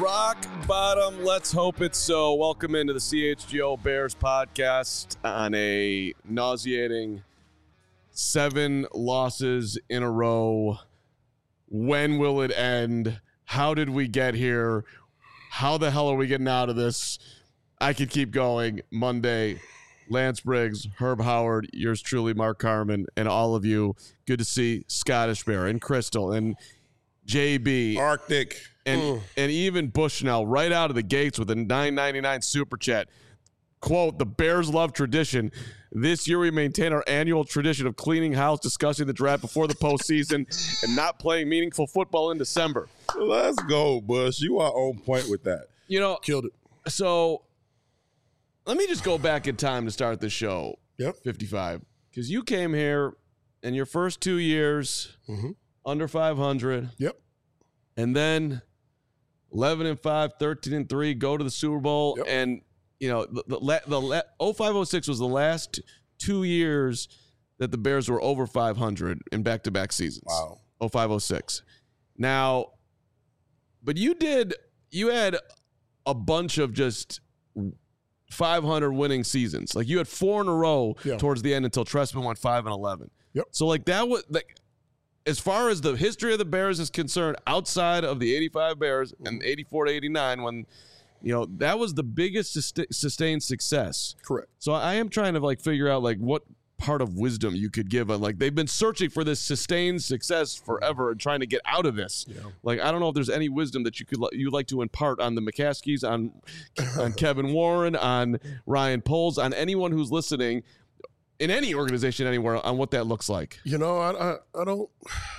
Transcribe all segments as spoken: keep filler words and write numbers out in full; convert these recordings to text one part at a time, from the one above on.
rock bottom. Let's hope it's so. Welcome into the C H G O Bears podcast on a nauseating seven losses in a row. When will it end? How did we get here? How the hell are we getting out of this? I could keep going. Monday, Lance Briggs, Herb Howard, yours truly, Mark Carman, and all of you. Good to see Scottish Bear and Crystal and J B. Arctic. And mm. and even Bushnell right out of the gates with a nine ninety-nine super chat. Quote, the Bears love tradition. This year we maintain our annual tradition of cleaning house, discussing the draft before the postseason, and not playing meaningful football in December. Let's go, Bush. You are on point with that. You know, Killed it. So let me just go back in time to start the show. Yep. fifty-five. Because you came here in your first two years, mm-hmm. under five hundred. Yep. And then eleven and five, thirteen and three, go to the Super Bowl. Yep. And, you know, the, the, the oh five oh six was the last two years that the Bears were over five hundred in back-to-back seasons. Wow. oh five oh six. Now, but you did, you had a bunch of just five hundred winning seasons. Like you had four in a row yeah. towards the end until Trestman went five and eleven. Yep. So like that was like, as far as the history of the Bears is concerned, outside of the eighty-five Bears and eighty-four to eighty-nine, when, you know, that was the biggest sustained success. Correct. So I am trying to like figure out like what part of wisdom you could give on, like, they've been searching for this sustained success forever and trying to get out of this. Yeah. Like, I don't know if there's any wisdom that you could you'd like to impart on the McCaskies, on on Kevin Warren, on Ryan Poles, on anyone who's listening in any organization anywhere, on what that looks like. You know, I, I, I don't.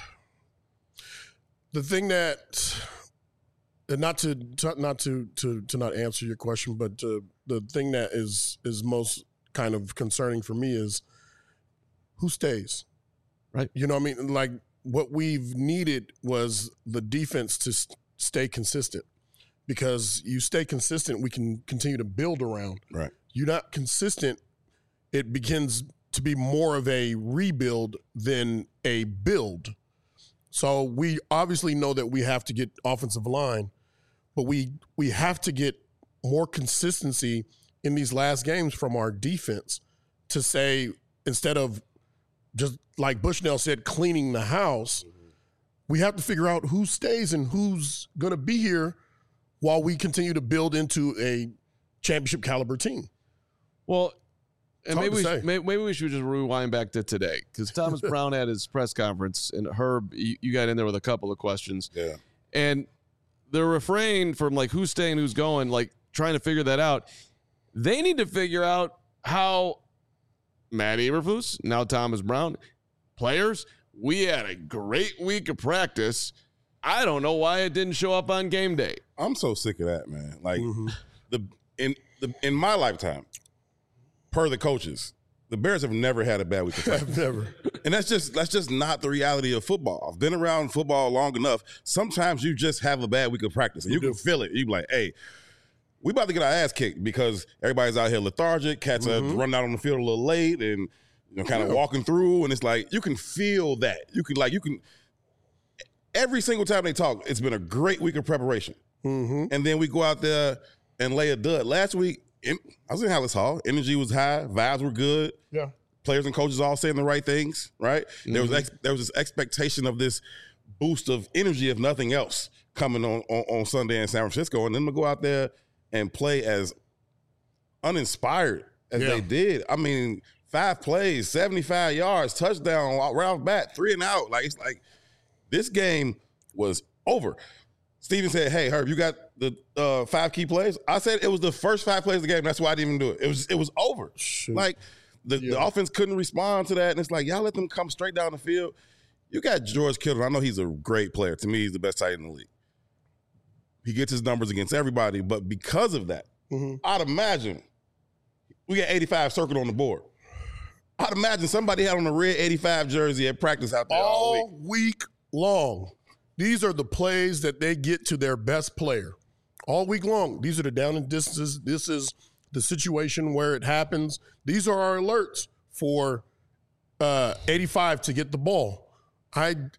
The thing that, and not to, not to, to, to not answer your question, but uh, the thing that is is most kind of concerning for me is who stays, right? You know what I mean? Like what we've needed was the defense to st- stay consistent, because you stay consistent, we can continue to build around. Right. You're not consistent, it begins to be more of a rebuild than a build. So we obviously know that we have to get offensive line, but we we have to get more consistency in these last games from our defense to say, instead of just like Bushnell said, cleaning the house, we have to figure out who stays and who's going to be here while we continue to build into a championship caliber team. Well, and maybe we, should, maybe we should just rewind back to today, because Thomas Brown had his press conference, and Herb, you, you got in there with a couple of questions. Yeah. And the refrain from like who's staying, who's going, like trying to figure that out. They need to figure out how Matt Eberflus, now Thomas Brown, players, we had a great week of practice. I don't know why it didn't show up on game day. I'm so sick of that, man. Like mm-hmm. the in the in my lifetime, per the coaches, the Bears have never had a bad week of practice. Never. And that's just that's just not the reality of football. I've been around football long enough. Sometimes you just have a bad week of practice, and you can feel it. You be like, hey, we about to get our ass kicked because everybody's out here lethargic. Cats mm-hmm. are running out on the field a little late and, you know, kind of yeah. walking through. And it's like, you can feel that. You can, like, you can, every single time they talk, it's been a great week of preparation. Mm-hmm. And then we go out there and lay a dud. Last week, in, I was in Hallis Hall. Energy was high. Vibes were good. Yeah. Players and coaches all saying the right things, right? Mm-hmm. There was ex, there was this expectation of this boost of energy, if nothing else, coming on, on, on Sunday in San Francisco. And then we go out there and play as uninspired as yeah. they did. I mean, five plays, seventy-five yards, touchdown, right off bat, three and out. Like, it's like this game was over. Steven said, hey, Herb, you got the uh, five key plays? I said it was the first five plays of the game. That's why I didn't even do it. It was it was over. Shoot. Like, the, yeah. the offense couldn't respond to that. And it's like, y'all let them come straight down the field. You got George Kittle. I know he's a great player. To me, he's the best tight end in the league. He gets his numbers against everybody, but because of that, mm-hmm. I'd imagine we got eighty-five circled on the board. I'd imagine somebody had on a red eighty-five jersey at practice out there all, all week. week long. These are the plays that they get to their best player all week long. These are the down and distances. This is the situation where it happens. These are our alerts for uh, eighty-five to get the ball. I it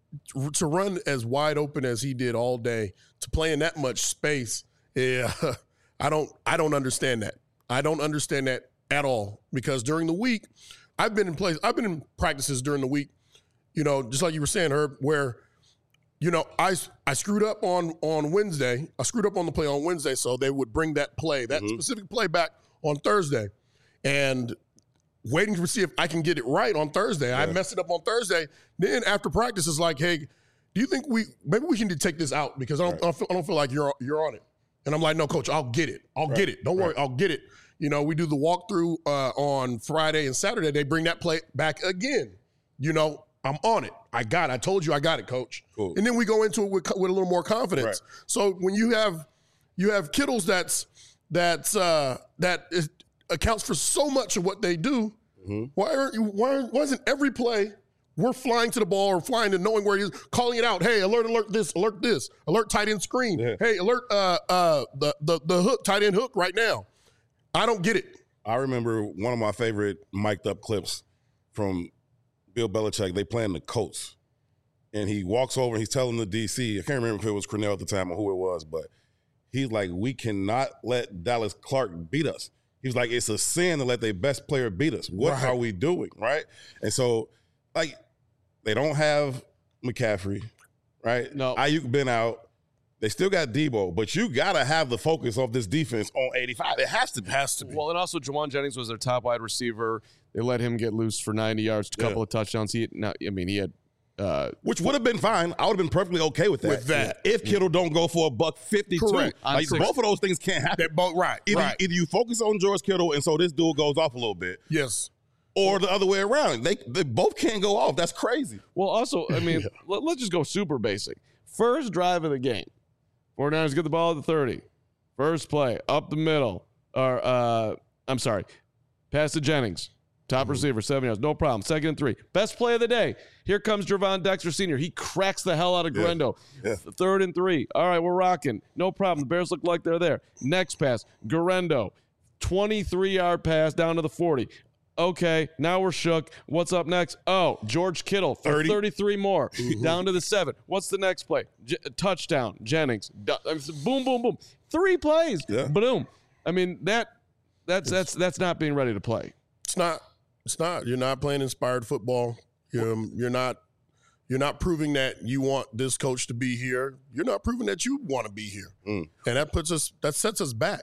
to run as wide open as he did all day, to play in that much space, yeah, I don't I don't understand that. I don't understand that at all, because during the week, I've been in place, I've been in practices during the week, you know, just like you were saying, Herb, where, you know, I, I screwed up on, on Wednesday. I screwed up on the play on Wednesday, so they would bring that play, that mm-hmm. specific play back on Thursday. And waiting to see if I can get it right on Thursday. Yeah. I messed it up on Thursday. Then after practice, it's like, hey, do you think we maybe we can take this out, because I don't, right. I don't, feel, I don't feel like you're you're on it. And I'm like, no, coach, I'll get it. I'll right. get it. Don't right. worry, I'll get it. You know, we do the walkthrough uh, on Friday and Saturday. They bring that play back again. You know, I'm on it. I got it. I told you I got it, coach. Cool. And then we go into it with, with a little more confidence. Right. So when you have you have Kittles that's that's uh, that is, accounts for so much of what they do. Mm-hmm. Why aren't you? Why, why isn't every play we're flying to the ball or flying to knowing where he is, calling it out? Hey, alert, alert this, alert this, alert tight end screen. Yeah. Hey, alert uh, uh, the the the hook, tight end hook right now. I don't get it. I remember one of my favorite mic'd up clips from Bill Belichick. They playing the Colts, and he walks over and he's telling the D C, I can't remember if it was Cornell at the time or who it was, but he's like, we cannot let Dallas Clark beat us. He was like, it's a sin to let their best player beat us. What right. are we doing, right? And so, like, they don't have McCaffrey, right? No. Ayuk been out. They still got Debo, but you got to have the focus of this defense on eighty-five. It has to be. Has to be. Well, and also Jawan Jennings was their top wide receiver. They let him get loose for ninety yards, a couple yeah. of touchdowns. He, now, I mean, he had uh, – Which would have been fine. I would have been perfectly okay with that. With that. If Kittle don't go for a buck fifty-two. Correct. Like, both of those things can't happen. They're both right. Either, right. either you focus on George Kittle and so this dude goes off a little bit. Yes. Or the other way around. They they both can't go off. That's crazy. Well, also, I mean, yeah. let, let's just go super basic. First drive of the game. forty-niners get the ball at the thirty. First play, up the middle. Or, uh, I'm sorry, pass to Jennings. Top mm-hmm. receiver, seven yards. No problem. Second and three. Best play of the day. Here comes Gervon Dexter Senior He cracks the hell out of Guerendo. Yeah. Yeah. Third and three. All right, we're rocking. No problem. The Bears look like they're there. Next pass, Guerendo. twenty-three-yard pass down to the forty. Okay, now we're shook. What's up next? Oh, George Kittle for thirty. thirty-three more. Mm-hmm. Down to the seven. What's the next play? J- touchdown, Jennings. Boom, boom, boom. Three plays. Yeah. Boom. I mean, that that's that's that's not being ready to play. It's not. It's not. You're not playing inspired football. You're, you're not you're not proving that you want this coach to be here. You're not proving that you want to be here. Mm. And that puts us that sets us back.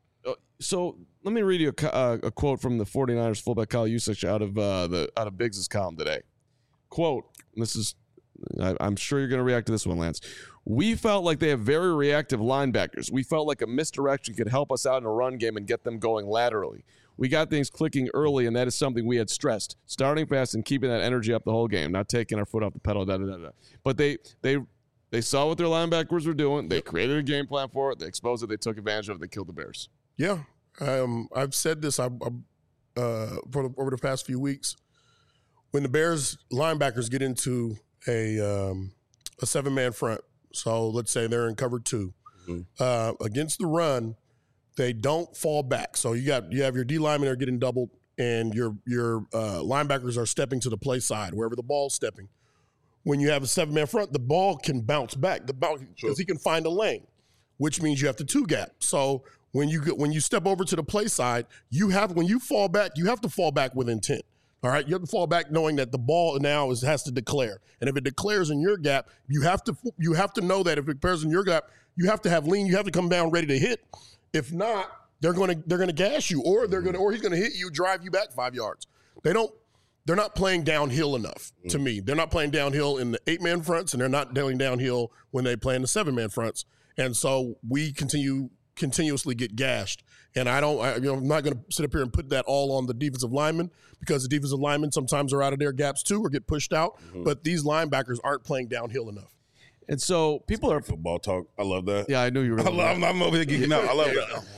So let me read you a, uh, a quote from the forty-niners fullback Kyle Juszczyk out of uh, the out of Biggs' column today. Quote, this is, I, I'm sure you're going to react to this one, Lance. We felt like they have very reactive linebackers. We felt like a misdirection could help us out in a run game and get them going laterally. We got things clicking early, and that is something we had stressed. Starting fast and keeping that energy up the whole game, not taking our foot off the pedal, da, da, da, da. But they they they saw what their linebackers were doing. They created a game plan for it. They exposed it. They took advantage of it. They killed the Bears. Yeah, um, I've said this I, I, uh, for the, over the past few weeks. When the Bears linebackers get into a um, a seven man front, so let's say they're in cover two mm-hmm. uh, against the run, they don't fall back. So you got you have your D linemen are getting doubled, and your your uh, linebackers are stepping to the play side wherever the ball's stepping. When you have a seven man front, the ball can bounce back the because sure. he can find a lane, which means you have to two gap. So when you get, when you step over to the play side, you have when you fall back, you have to fall back with intent. All right, you have to fall back knowing that the ball now is has to declare, and if it declares in your gap, you have to you have to know that if it declares in your gap, you have to have lean, you have to come down ready to hit. If not, they're going to they're going to gash you, or they're going to or he's going to hit you, drive you back five yards. They don't. They're not playing downhill enough to me. They're not playing downhill in the eight man fronts, and they're not playing downhill when they play in the seven man fronts. And so we continue. continuously get gashed. And I don't, I, you know, I'm not going to sit up here and put that all on the defensive linemen because the defensive linemen sometimes are out of their gaps too or get pushed out. Mm-hmm. But these linebackers aren't playing downhill enough. And so people are football talk. I love that. Yeah, I knew you were. I love. I'm over here geeking out. I love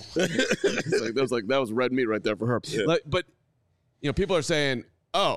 that. like, that was like that was red meat right there for her. Yeah. Like, but you know, people are saying, "Oh,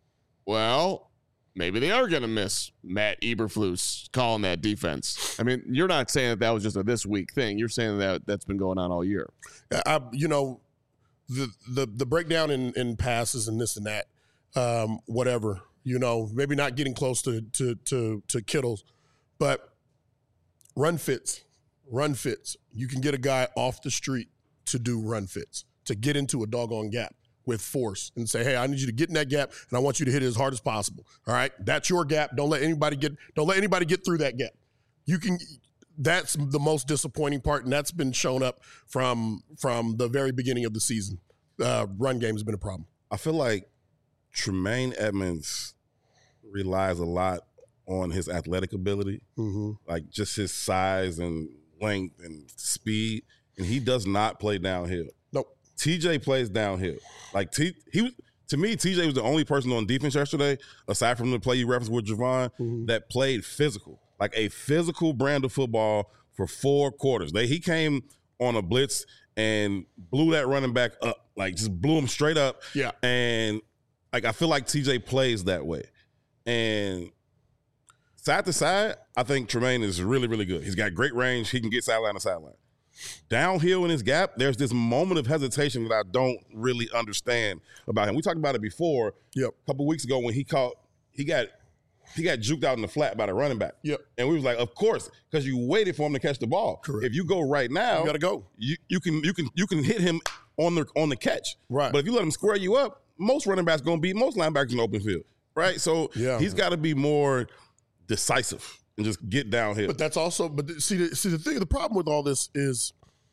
well, maybe they are going to miss Matt Eberflus calling that defense." I mean, you're not saying that that was just a this week thing. You're saying that that's been going on all year. I, you know, the the the breakdown in, in passes and this and that, um, whatever. You know, maybe not getting close to to to, to Kittle's, but run fits, run fits. You can get a guy off the street to do run fits, to get into a doggone gap with force and say, hey, I need you to get in that gap and I want you to hit it as hard as possible. All right. That's your gap. Don't let anybody get, don't let anybody get through that gap. You can, that's the most disappointing part. And that's been shown up from, from the very beginning of the season. Uh, run game has been a problem. I feel like Tremaine Edmonds relies a lot on his athletic ability, mm-hmm. like just his size and length and speed. And he does not play downhill. Nope. T J plays downhill. Like T, he to me, T J was the only person on defense yesterday, aside from the play you referenced with Javon, mm-hmm. that played physical, like a physical brand of football for four quarters. They he came on a blitz and blew that running back up, like just blew him straight up. Yeah. And like I feel like T J plays that way. And side to side, I think Tremaine is really, really good. He's got great range. He can get sideline to sideline. Downhill in his gap, there's this moment of hesitation that I don't really understand about him. We talked about it before. Yep. A couple weeks ago when he caught, he got he got juked out in the flat by the running back. Yep. And we was like, of course, because you waited for him to catch the ball. Correct. If you go right now, you gotta go. You you can you can you can hit him on the on the catch. Right. But if you let him square you up, most running backs gonna beat most linebackers in the open field. Right. So yeah. he's got to be more decisive and just get downhill. But that's also, but see, the, see the thing, the problem with all this is,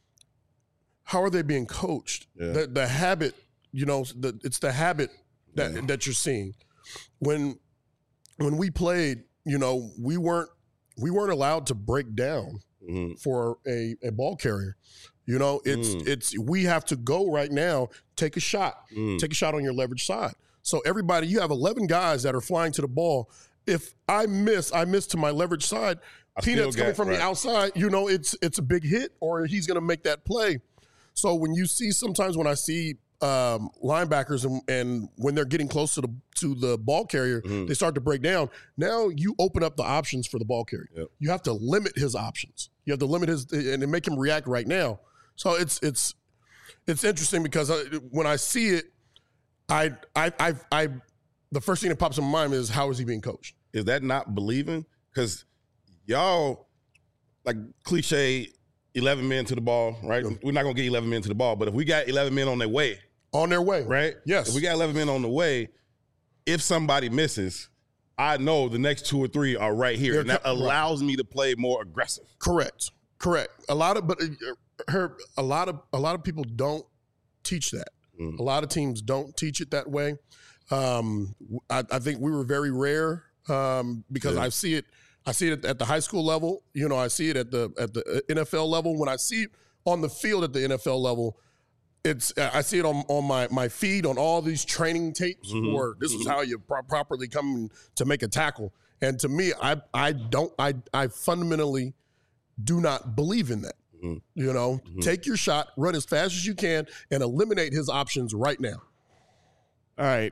how are they being coached? Yeah. The, the habit, you know, the, it's the habit that yeah. that you're seeing. When when we played, you know, we weren't we weren't allowed to break down mm-hmm. for a, a ball carrier. You know, it's mm. it's we have to go right now, take a shot, mm. take a shot on your leverage side. So everybody, you have eleven guys that are flying to the ball. If I miss, I miss to my leverage side. I Peanuts coming from right. the outside, you know, it's it's a big hit, or he's going to make that play. So when you see, sometimes when I see um, linebackers and, and when they're getting close to the to the ball carrier, mm-hmm. they start to break down. Now you open up the options for the ball carrier. Yep. You have to limit his options. You have to limit his and make him react right now. So it's it's it's interesting because I, when I see it, I I I I the first thing that pops in my mind is, how is he being coached? Is that not believing? Because y'all, like cliche, eleven men to the ball, right? Yeah. We're not going to get eleven men to the ball, but if we got eleven men on their way. On their way. Right? Yes. If we got eleven men on the way, if somebody misses, I know the next two or three are right here. They're and that co- allows right. me to play more aggressive. Correct. Correct. A lot of, but her, a lot of, a lot of people don't teach that. Mm. A lot of teams don't teach it that way. Um, I, I think we were very rare um, because yeah. I see it. I see it at the high school level. You know, I see it at the at the N F L level. When I see it on the field at the N F L level, it's I see it on, on my, my feed on all these training tapes mm-hmm. where this mm-hmm. is how you pro- properly come to make a tackle. And to me, I I don't I I fundamentally do not believe in that. Mm-hmm. You know, mm-hmm. take your shot, run as fast as you can, and eliminate his options right now. All right.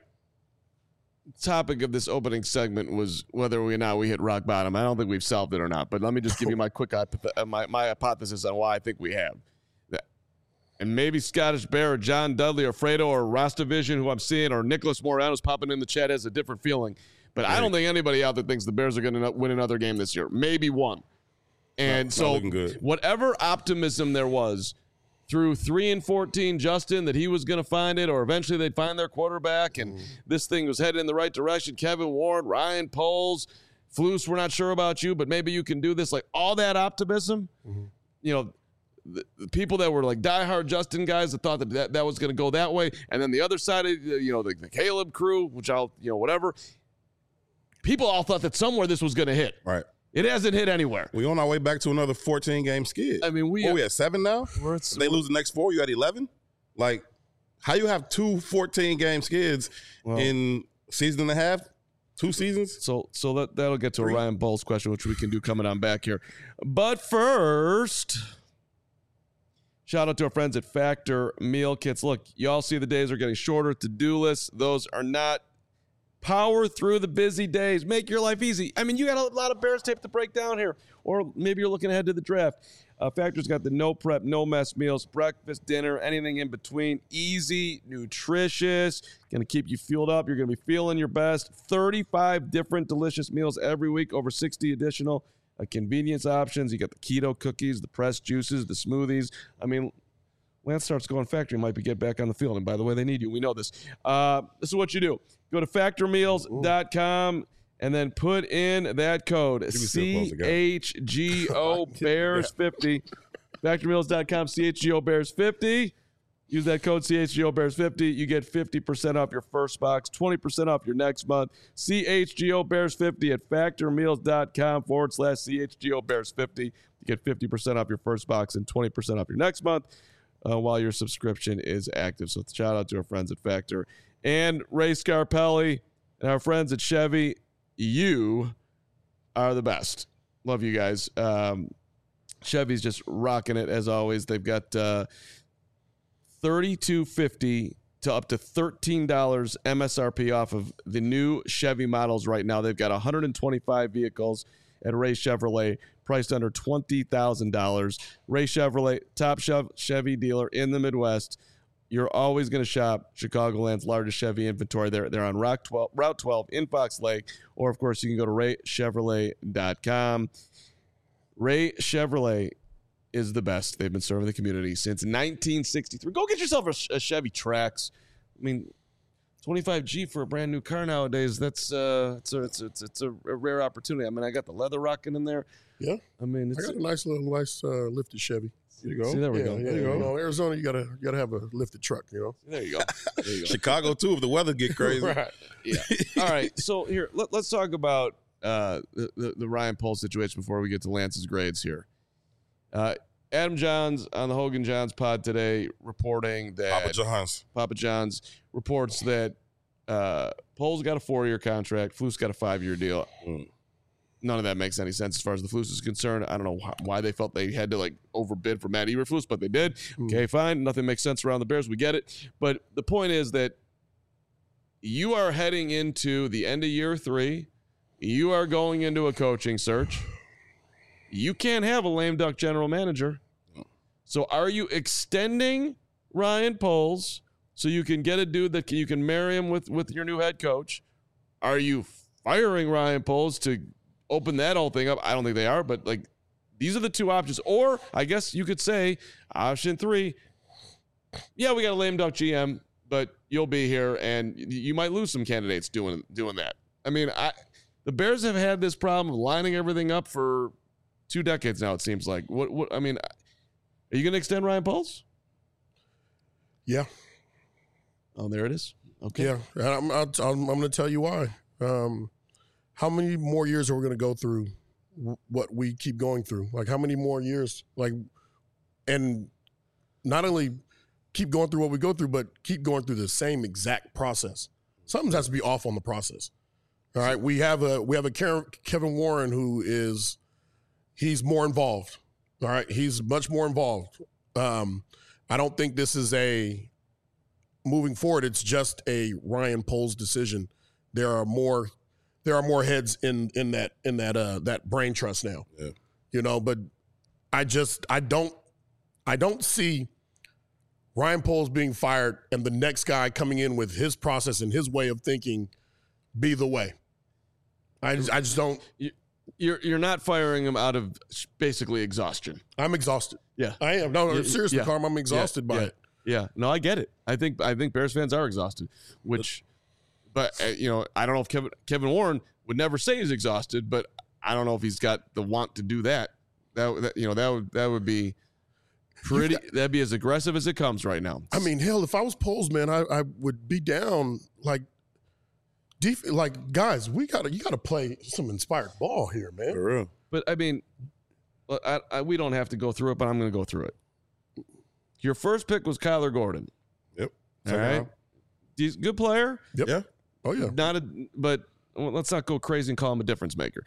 Topic of this opening segment was whether or not we hit rock bottom. I don't think we've solved it or not, but let me just give you my quick hypoth- my, my hypothesis on why I think we have. And maybe Scottish Bear or John Dudley or Fredo or Rostavision, who I'm seeing, or Nicholas Morano's popping in the chat, has a different feeling. But right. I don't think anybody out there thinks the Bears are going to win another game this year. Maybe one. And not, so not whatever optimism there was through three and fourteen, Justin, that he was going to find it, or eventually they'd find their quarterback, and mm. this thing was headed in the right direction. Kevin Warren, Ryan Poles, Flus, we're not sure about you, but maybe you can do this. Like all that optimism, mm-hmm. you know, the, the people that were like diehard Justin guys that thought that that, that was going to go that way, and then the other side of, you know, the, the Caleb crew, which I'll, you know, whatever. People all thought that somewhere this was going to hit. Right. It hasn't hit anywhere. We on our way back to another fourteen-game skid. I mean, we oh, are, we at seven now? We're at, if they lose the next four, you at eleven? Like, how you have two fourteen-game skids well, in season and a half? Two seasons? So so that, that'll get to Three. a Ryan Bowles question, which we can do coming on back here. But first, shout out to our friends at Factor Meal Kits. Look, y'all see the days are getting shorter. To-do lists, those are not Power through the busy days. Make your life easy. I mean, you got a lot of Bears tape to break down here. Or maybe you're looking ahead to the draft. Uh, Factor's got the no prep, no mess meals, breakfast, dinner, anything in between. Easy, nutritious, going to keep you fueled up. You're going to be feeling your best. thirty-five different delicious meals every week, over sixty additional uh, convenience options. You got the keto cookies, the pressed juices, the smoothies. I mean, Lance starts going Factor, you might be get back on the field. And by the way, they need you. We know this. Uh, this is what you do. Go to factor meals dot com and then put in that code C H G O Bears fifty. factor meals dot com, C H G O Bears fifty. Use that code C H G O Bears fifty. You get fifty percent off your first box, twenty percent off your next month. C H G O Bears fifty at factor meals dot com forward slash C H G O Bears fifty. You get fifty percent off your first box and twenty percent off your next month. Uh, while your subscription is active. So shout out to our friends at Factor and Ray Scarpelli and our friends at Chevy. You are the best. Love you guys. Um, Chevy's just rocking it as always. They've got uh, thirty-two fifty to up to thirteen dollars M S R P off of the new Chevy models right now. They've got one hundred twenty-five vehicles at Ray Chevrolet, priced under twenty thousand dollars. Ray Chevrolet, top Chevy dealer in the Midwest. You're always going to shop Chicagoland's largest Chevy inventory. They're, they're on Route twelve, Route twelve in Fox Lake, or, of course, you can go to ray chevrolet dot com. Ray Chevrolet is the best. They've been serving the community since nineteen sixty-three. Go get yourself a, a Chevy Trax. I mean, twenty-five G for a brand new car nowadays, that's uh, it's a, it's a, it's a, it's a rare opportunity. I mean, I got the leather rocking in there. Yeah. I mean, it's I got a nice little, nice uh, lifted Chevy. There you go. See, there we yeah, go. Yeah, there you you know, go. in Arizona, you gotta you gotta have a lifted truck. You know. There you go. There you go. Chicago too, if the weather get crazy. Right. Yeah. All right. So here, let, let's talk about uh, the, the the Ryan Poles situation before we get to Lance's grades here. Uh, Adam Johns on the Hogan Johns pod today reporting that Papa John's. Papa John's reports that uh, Poles got a four-year contract, Flus got a five-year deal. Mm. None of that makes any sense as far as the Flus is concerned. I don't know wh- why they felt they had to like overbid for Matt Eberflus, but they did. Mm. Okay, fine. Nothing makes sense around the Bears. We get it. But the point is that you are heading into the end of year three. You are going into a coaching search. You can't have a lame duck general manager. So are you extending Ryan Poles so you can get a dude that can, you can marry him with, with your new head coach? Are you firing Ryan Poles to open that whole thing up? I don't think they are, but like these are the two options. Or I guess you could say option three, yeah, we got a lame duck G M, but you'll be here and you might lose some candidates doing doing that. I mean, I the Bears have had this problem of lining everything up for two decades now, it seems like. What? What? I mean, are you going to extend Ryan Poles? Yeah. Oh, there it is. Okay. Yeah. And I'm I'm, I'm going to tell you why. Um, how many more years are we going to go through w- what we keep going through? Like how many more years? Like, and not only keep going through what we go through, but keep going through the same exact process. Something has to be off on the process. All right. We have a we have a Kevin Warren who is he's more involved. All right. He's much more involved. Um, I don't think this is a moving forward. It's just a Ryan Poles decision. There are more, there are more heads in, in that, in that, uh, that brain trust now, Yeah. you know, but I just, I don't, I don't see Ryan Poles being fired and the next guy coming in with his process and his way of thinking be the way. I just, I just don't. You're you're not firing him out of basically exhaustion. I'm exhausted. Yeah, I am. No, no Yeah, seriously, yeah. Carm, I'm exhausted yeah, by yeah, it. Yeah, no, I get it. I think I think Bears fans are exhausted. Which, but uh, you know, I don't know if Kevin Kevin Warren would never say he's exhausted, but I don't know if he's got the want to do that. That, that you know that would that would be pretty. Got, that'd be as aggressive as it comes right now. I mean, hell, if I was Poles, man, I, I would be down like. Def- like guys, we gotta you gotta play some inspired ball here, man. For real. But I mean, I, I, we don't have to go through it, but I'm going to go through it. Your first pick was Kyler Gordon. Yep. All right, he's a good player. Yep. Yeah. Oh yeah. Not a, but well, let's not go crazy and call him a difference maker.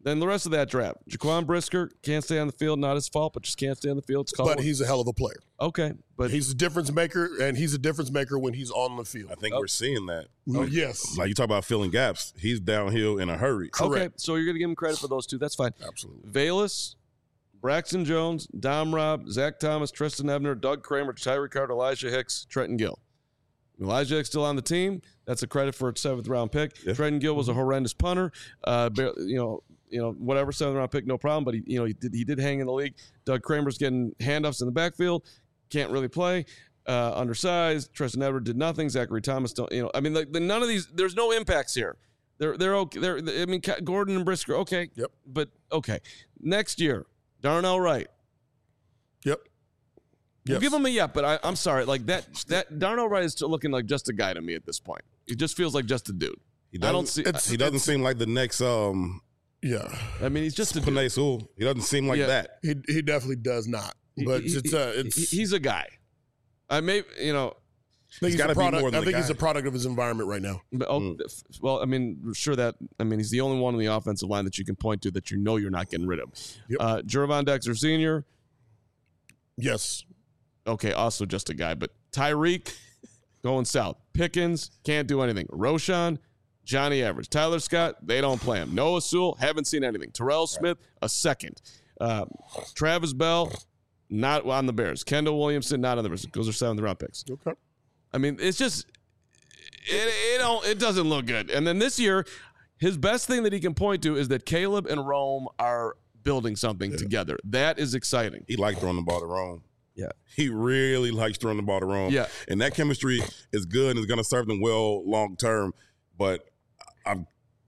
Then the rest of that draft. Jaquan Brisker can't stay on the field. Not his fault, but just can't stay on the field. It's called. But he's a hell of a player. Okay. But he's a difference maker, and he's a difference maker when he's on the field. I think Oh. we're seeing that. Oh, yes. Like you talk about filling gaps. He's downhill in a hurry. Correct. Okay, so you're going to give him credit for those two. That's fine. Absolutely. Valus, Braxton Jones, Dom Robb, Zach Thomas, Tristan Ebner, Doug Kramer, Tyree Carter, Elijah Hicks, Trenton Gill. Elijah Hicks still on the team. That's a credit for a seventh round pick. Yeah. Trenton Gill was a horrendous punter. Uh, bar- you know, you know, whatever seventh round pick, no problem. But he, you know, he did he did hang in the league. Doug Kramer's getting handoffs in the backfield, can't really play. Uh, undersized. Tristan Edwards did nothing. Zachary Thomas, don't, you know, I mean, like the, none of these. There's no impacts here. They're they're okay. They're I mean, Gordon and Brisker, okay. Yep. But okay, next year, Darnell Wright. Yep. We'll Yes. give him a yep, but I, I'm sorry. Like that, that Darnell Wright is looking like just a guy to me at this point. He just feels like just a dude. He I don't doesn't- see. it's- He doesn't seem like the next um Yeah. I mean, he's just a dude. Panay Sewell. He doesn't seem like Yeah. that. He he definitely does not. But He- it's he- uh it's he- he's a guy. I may, you know, I think he's gotta a be product. more than I the think he's guy. a product of his environment right now. but, oh, Mm. f- well, I mean, sure that I mean he's the only one on the offensive line that you can point to that you know you're not getting rid of. Yep. Uh, Jervon Dexter Senior Yes. Okay, also just a guy, but Tyreek going south. Pickens can't do anything. Roshan, Johnny Average, Tyler Scott, they don't play him. Noah Sewell, haven't seen anything. Terrell Smith, a second. Uh, Travis Bell, not on the Bears. Kendall Williamson, not on the Bears. Those are seventh round picks. Okay. I mean, it's just it it don't it doesn't look good. And then this year, his best thing that he can point to is that Caleb and Rome are building something together. That is exciting. He liked throwing the ball to Rome. Yeah. He really likes throwing the ball to Rome. Yeah. And that chemistry is good and is going to serve them well long term. But I'm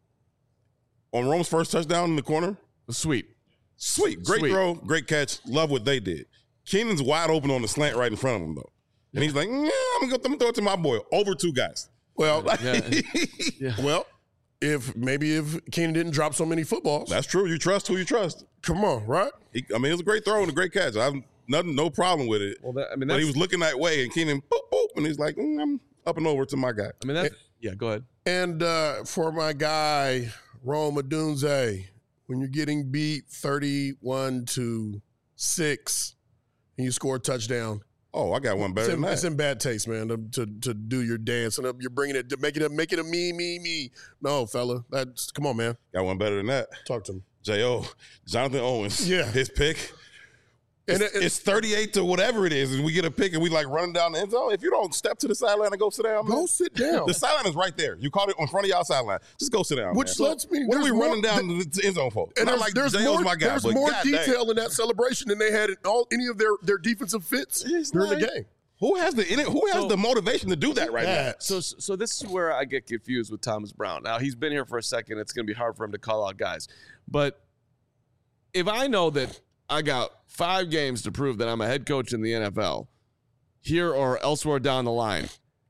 on Rome's first touchdown in the corner. Sweet. Sweet. Great Sweet. throw. Great catch. Love what they did. Keenan's wide open on the slant right in front of him, though. And he's like, yeah, I'm going to throw it to my boy. Over two guys. Well, Yeah. Yeah. well, if maybe if Keenan didn't drop so many footballs, That's true. You trust who you trust. come on, right? He, I mean, it was a great throw and a great catch. I have nothing, no problem with it. Well, that, I mean, But that's, he was looking that way, and Keenan, boop, boop, and he's like, mm, I'm up and over to my guy. I mean, that's, yeah, go ahead. And uh, for my guy Rome Odunze, when you're getting beat thirty-one to six, and you score a touchdown, Oh, I got one better it's than in, that. it's in bad taste, man. To, to to do your dance and you're bringing it to make it a make it a me me me. No, fella, that's come on, man. Got one better than that. Talk to him. J O, Jonathan Owens. Yeah. His pick. And It's, it- it's thirty-eight to whatever it is, and we get a pick, and we like running down the end zone. If you don't step to the sideline and go sit down, Go man, sit down. the sideline is right there. You caught it in front of y'all sideline. Just go sit down. Which man. lets me. What are we there's more- running down the, the end zone for? And Not there's, like there's J O's more, my guy, there's but more God dang. detail in that celebration than they had in all any of their, their defensive fits It's during like- the game. Who has the who has So- the motivation to do that right now? That- So, so this is where I get confused with Thomas Brown. Now he's been here for a second. It's going to be hard for him to call out guys, but if I know that I got five games to prove that I'm a head coach in the N F L, here or elsewhere down the line,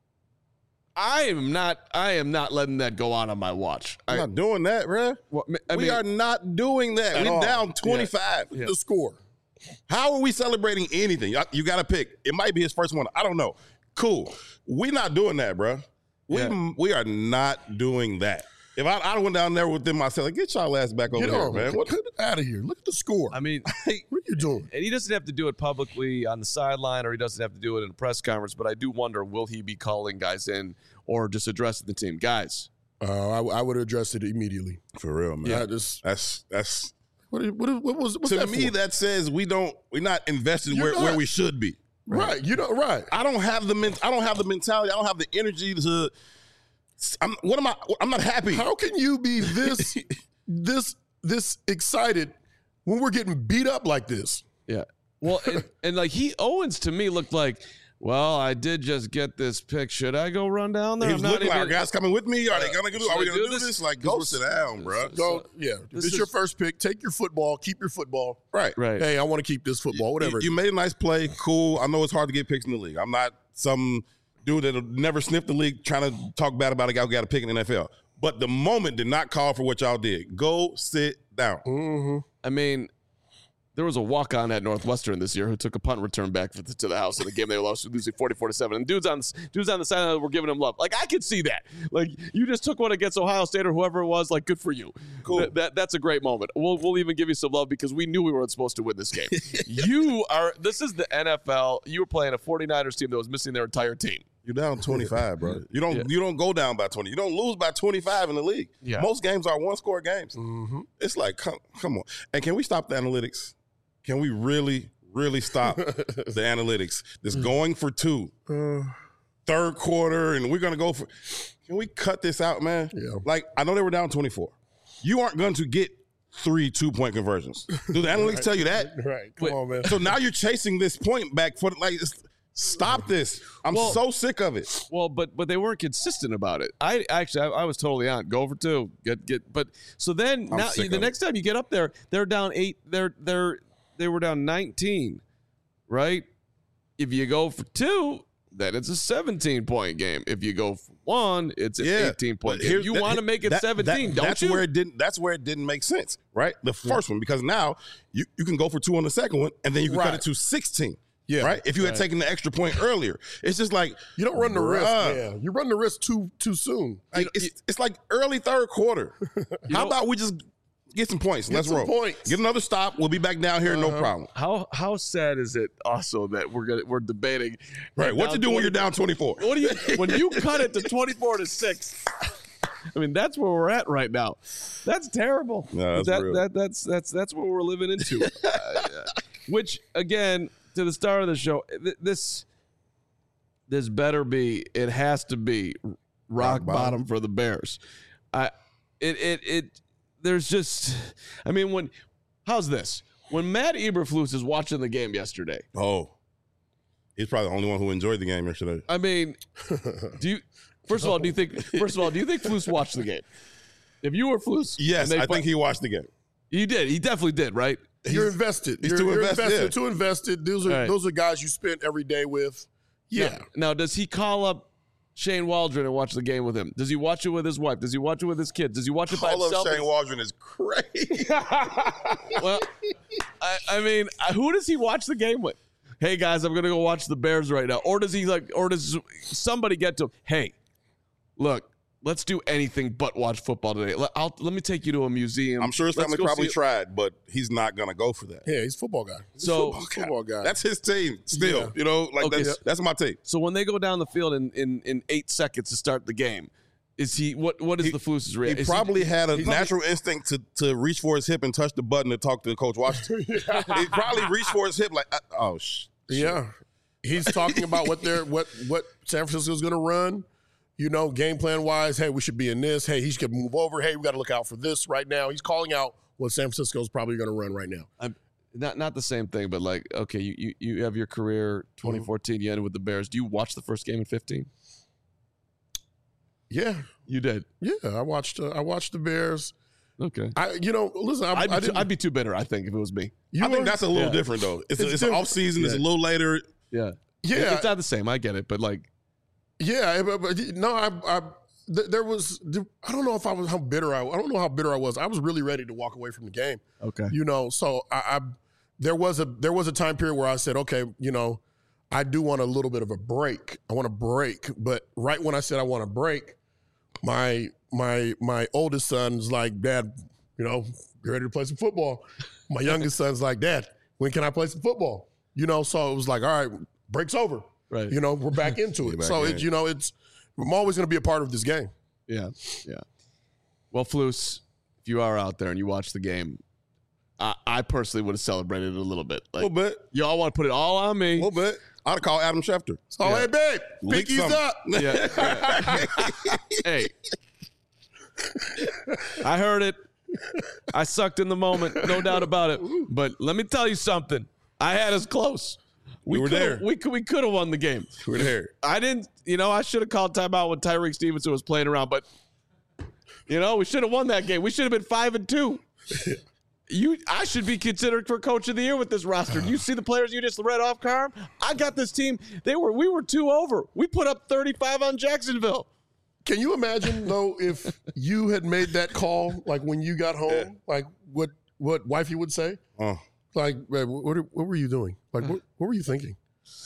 I am not. I am not letting that go on on my watch. I'm I, not doing that, bruh. well, I we mean, are not doing that. At We're all. down twenty-five. Yeah. The score. How are we celebrating anything? You- You got to pick. It might be his first one. I don't know. Cool. We're not doing that, bro. We Yeah. we are not doing that. If I I went down there with them myself, like, get y'all ass back over Get here, on, man. man. What, Get out of here. Look at the score. I mean, what are you doing? and he doesn't have to do it publicly on the sideline, or he doesn't have to do it in a press conference. But I do wonder, will he be calling guys in or just addressing the team, guys? Uh, I, I would have addressed it immediately. for real, man. Yeah, just That's that's what, what, what was what's to that me for? that says we don't we're not invested You're where, where not. we should be. right. You know, right. I don't have the men, I don't have the mentality. I don't have the energy to. I'm what am I? I'm not happy. How can you be this this this excited when we're getting beat up like this? Yeah. Well, and, and like he Owens to me looked like, well, I did just get this pick. Should I go run down there? He I'm was not looking like, even- are guys coming with me? Are they gonna do? should Are we I gonna do do this? this? Like, This go was- sit down, bro. Go, yeah. this This is your is- first pick. Take your football. Keep your football. Right. Right. Hey, I want to keep this football. Whatever. You, you made a nice play. Cool. I know it's hard to get picks in the league. I'm not some dude that'll never sniff the league trying to talk bad about a guy who got a pick in the N F L. But the moment did not call for what y'all did. Go sit down. mm-hmm. I mean, There was a walk-on at Northwestern this year who took a punt return back for the, to the house in the game they lost, losing forty-four to seven. And dudes on dudes on the sideline were giving him love. Like, I could see that. Like, you just took one against Ohio State or whoever it was. Like, good for you. Cool. Th- that that's a great moment. We'll we'll even give you some love because we knew we weren't supposed to win this game. You are. This is the N F L. You were playing a 49ers team that was missing their entire team. You're down twenty-five, bro. You don't yeah. you don't go down by twenty. You don't lose by twenty-five in the league. Yeah. Most games are one-score games. Mm-hmm. It's like, come, come on. And can we stop the analytics? Can we really, really stop the analytics? This going for two, uh, third quarter, and we're going to go for – can we cut this out, man? Yeah. Like, I know they were down twenty-four. You aren't going to get three two-point conversions. Do the analytics right. tell you that? Right. Come Wait. on, man. So now you're chasing this point back for – like, stop this. I'm well, so sick of it. Well, but but they weren't consistent about it. I actually I, I was totally on go for two. Get get but so then I'm now the next it. time you get up there, they're down eight. They're they're they were down nineteen, right? If you go for two, then it's a seventeen point game. If you go for one, it's an yeah, eighteen point game. You want to make it that, seventeen, that, don't that's you? Where it didn't, that's where it didn't make sense, right? The first yeah. one, because now you, you can go for two on the second one, and then you can right. cut it to sixteen. Yeah. Right? If you had right. taken the extra point earlier. It's just like you don't run the bruh. risk. Yeah. You run the risk too too soon. Like, it's, it's like early third quarter. How know, about we just get some points? Get Let's some roll. Points. Get another stop. We'll be back down here, uh-huh. no problem. How how sad is it also that we're gonna we're debating right? What you do when you're down twenty-four? What do you when you cut it to twenty-four to six? I mean, that's where we're at right now. That's terrible. No, that's that, real. that that's that's that's what we're living into. uh, which again, to the start of the show, th- this this better be. It has to be rock, rock bottom. bottom for the Bears. I it it it. There's just, I mean, when how's this? When Matt Eberflus is watching the game yesterday. Oh, he's probably the only one who enjoyed the game yesterday. I mean, do you? First of all, do you think? First of all, do you think Flus watched the game? If you were Flus, yes, I think he watched the game. He did. He definitely did. Right? You're he's, invested. He's you're, too you're invested. invested. Yeah. Too invested. Those are right. those are guys you spent every day with. Yeah. Now, now, does he call up Shane Waldron and watch the game with him? Does he watch it with his wife? Does he watch it with his kids? Does he watch it by Call himself? Up Shane Waldron is crazy. Well, I, I mean, who does he watch the game with? Hey guys, I'm gonna go watch the Bears right now. Or does he like? Or does somebody get to him? Hey, look, let's do anything but watch football today. Let, I'll, let me take you to a museum. I'm sure his family probably tried, but he's not going to go for that. Yeah, he's a football guy. He's so, a football, football guy. That's his team still. Yeah. You know, like okay. that's, that's my team. So when they go down the field in, in, in eight seconds to start the game, is he what what is he, the Flus' reaction? He is probably he, had a natural probably, instinct to, to reach for his hip and touch the button to talk to Coach Washington. He probably reached for his hip like, oh, sh- yeah. He's talking about what they're what what San Francisco's going to run. You know, game plan wise, hey, we should be in this. Hey, he should move over. Hey, we got to look out for this right now. He's calling out what San Francisco's probably going to run right now. I'm not not the same thing, but like, okay, you you, you have your career twenty fourteen, mm-hmm. you ended with the Bears. Do you watch the first game in fifteen? Yeah, you did. Yeah, I watched. Uh, I watched the Bears. Okay. I, you know, listen, I, I'd, be I too, I'd be too bitter. I think if it was me, you I think that's a little yeah. different though. It's, it's, it's off season. Yeah. It's a little later. Yeah, yeah. It's not the same. I get it, but like, yeah, but, but no, I, I th- there was. I don't know if I was how bitter I. I don't know how bitter I was. I was really ready to walk away from the game. Okay. You know, so I, I there was a there was a time period where I said, okay, you know, I do want a little bit of a break. I want a break, but right when I said I want a break, my my my oldest son's like, Dad, you know, you ready to play some football? My youngest son's like, Dad, when can I play some football? You know, so it was like, all right, break's over. Right. You know, we're back into it. Back so it's, you know, it's I'm always going to be a part of this game. Yeah, yeah. Well, Flus, if you are out there and you watch the game, I, I personally would have celebrated it a little bit. Like, a little bit. Y'all want to put it all on me. A little bit. I'd call Adam Schefter. So, yeah. Hey, babe, pinkies up. Yeah. yeah. Hey. I heard it. I sucked in the moment, no doubt about it. But let me tell you something. I had us close. We, we were there. We could we could have won the game. We were there. I didn't, you know, I should have called timeout when Tyreek Stevenson was playing around, but you know, we should have won that game. We should have been five and two. You, I should be considered for coach of the year with this roster. Do you see the players you just read off, Carm? I got this team. They were we were two over. We put up thirty-five on Jacksonville. Can you imagine though if you had made that call, like when you got home, yeah. like what what wifey would say? Oh. Like, what, what were you doing? Like, what, what were you thinking?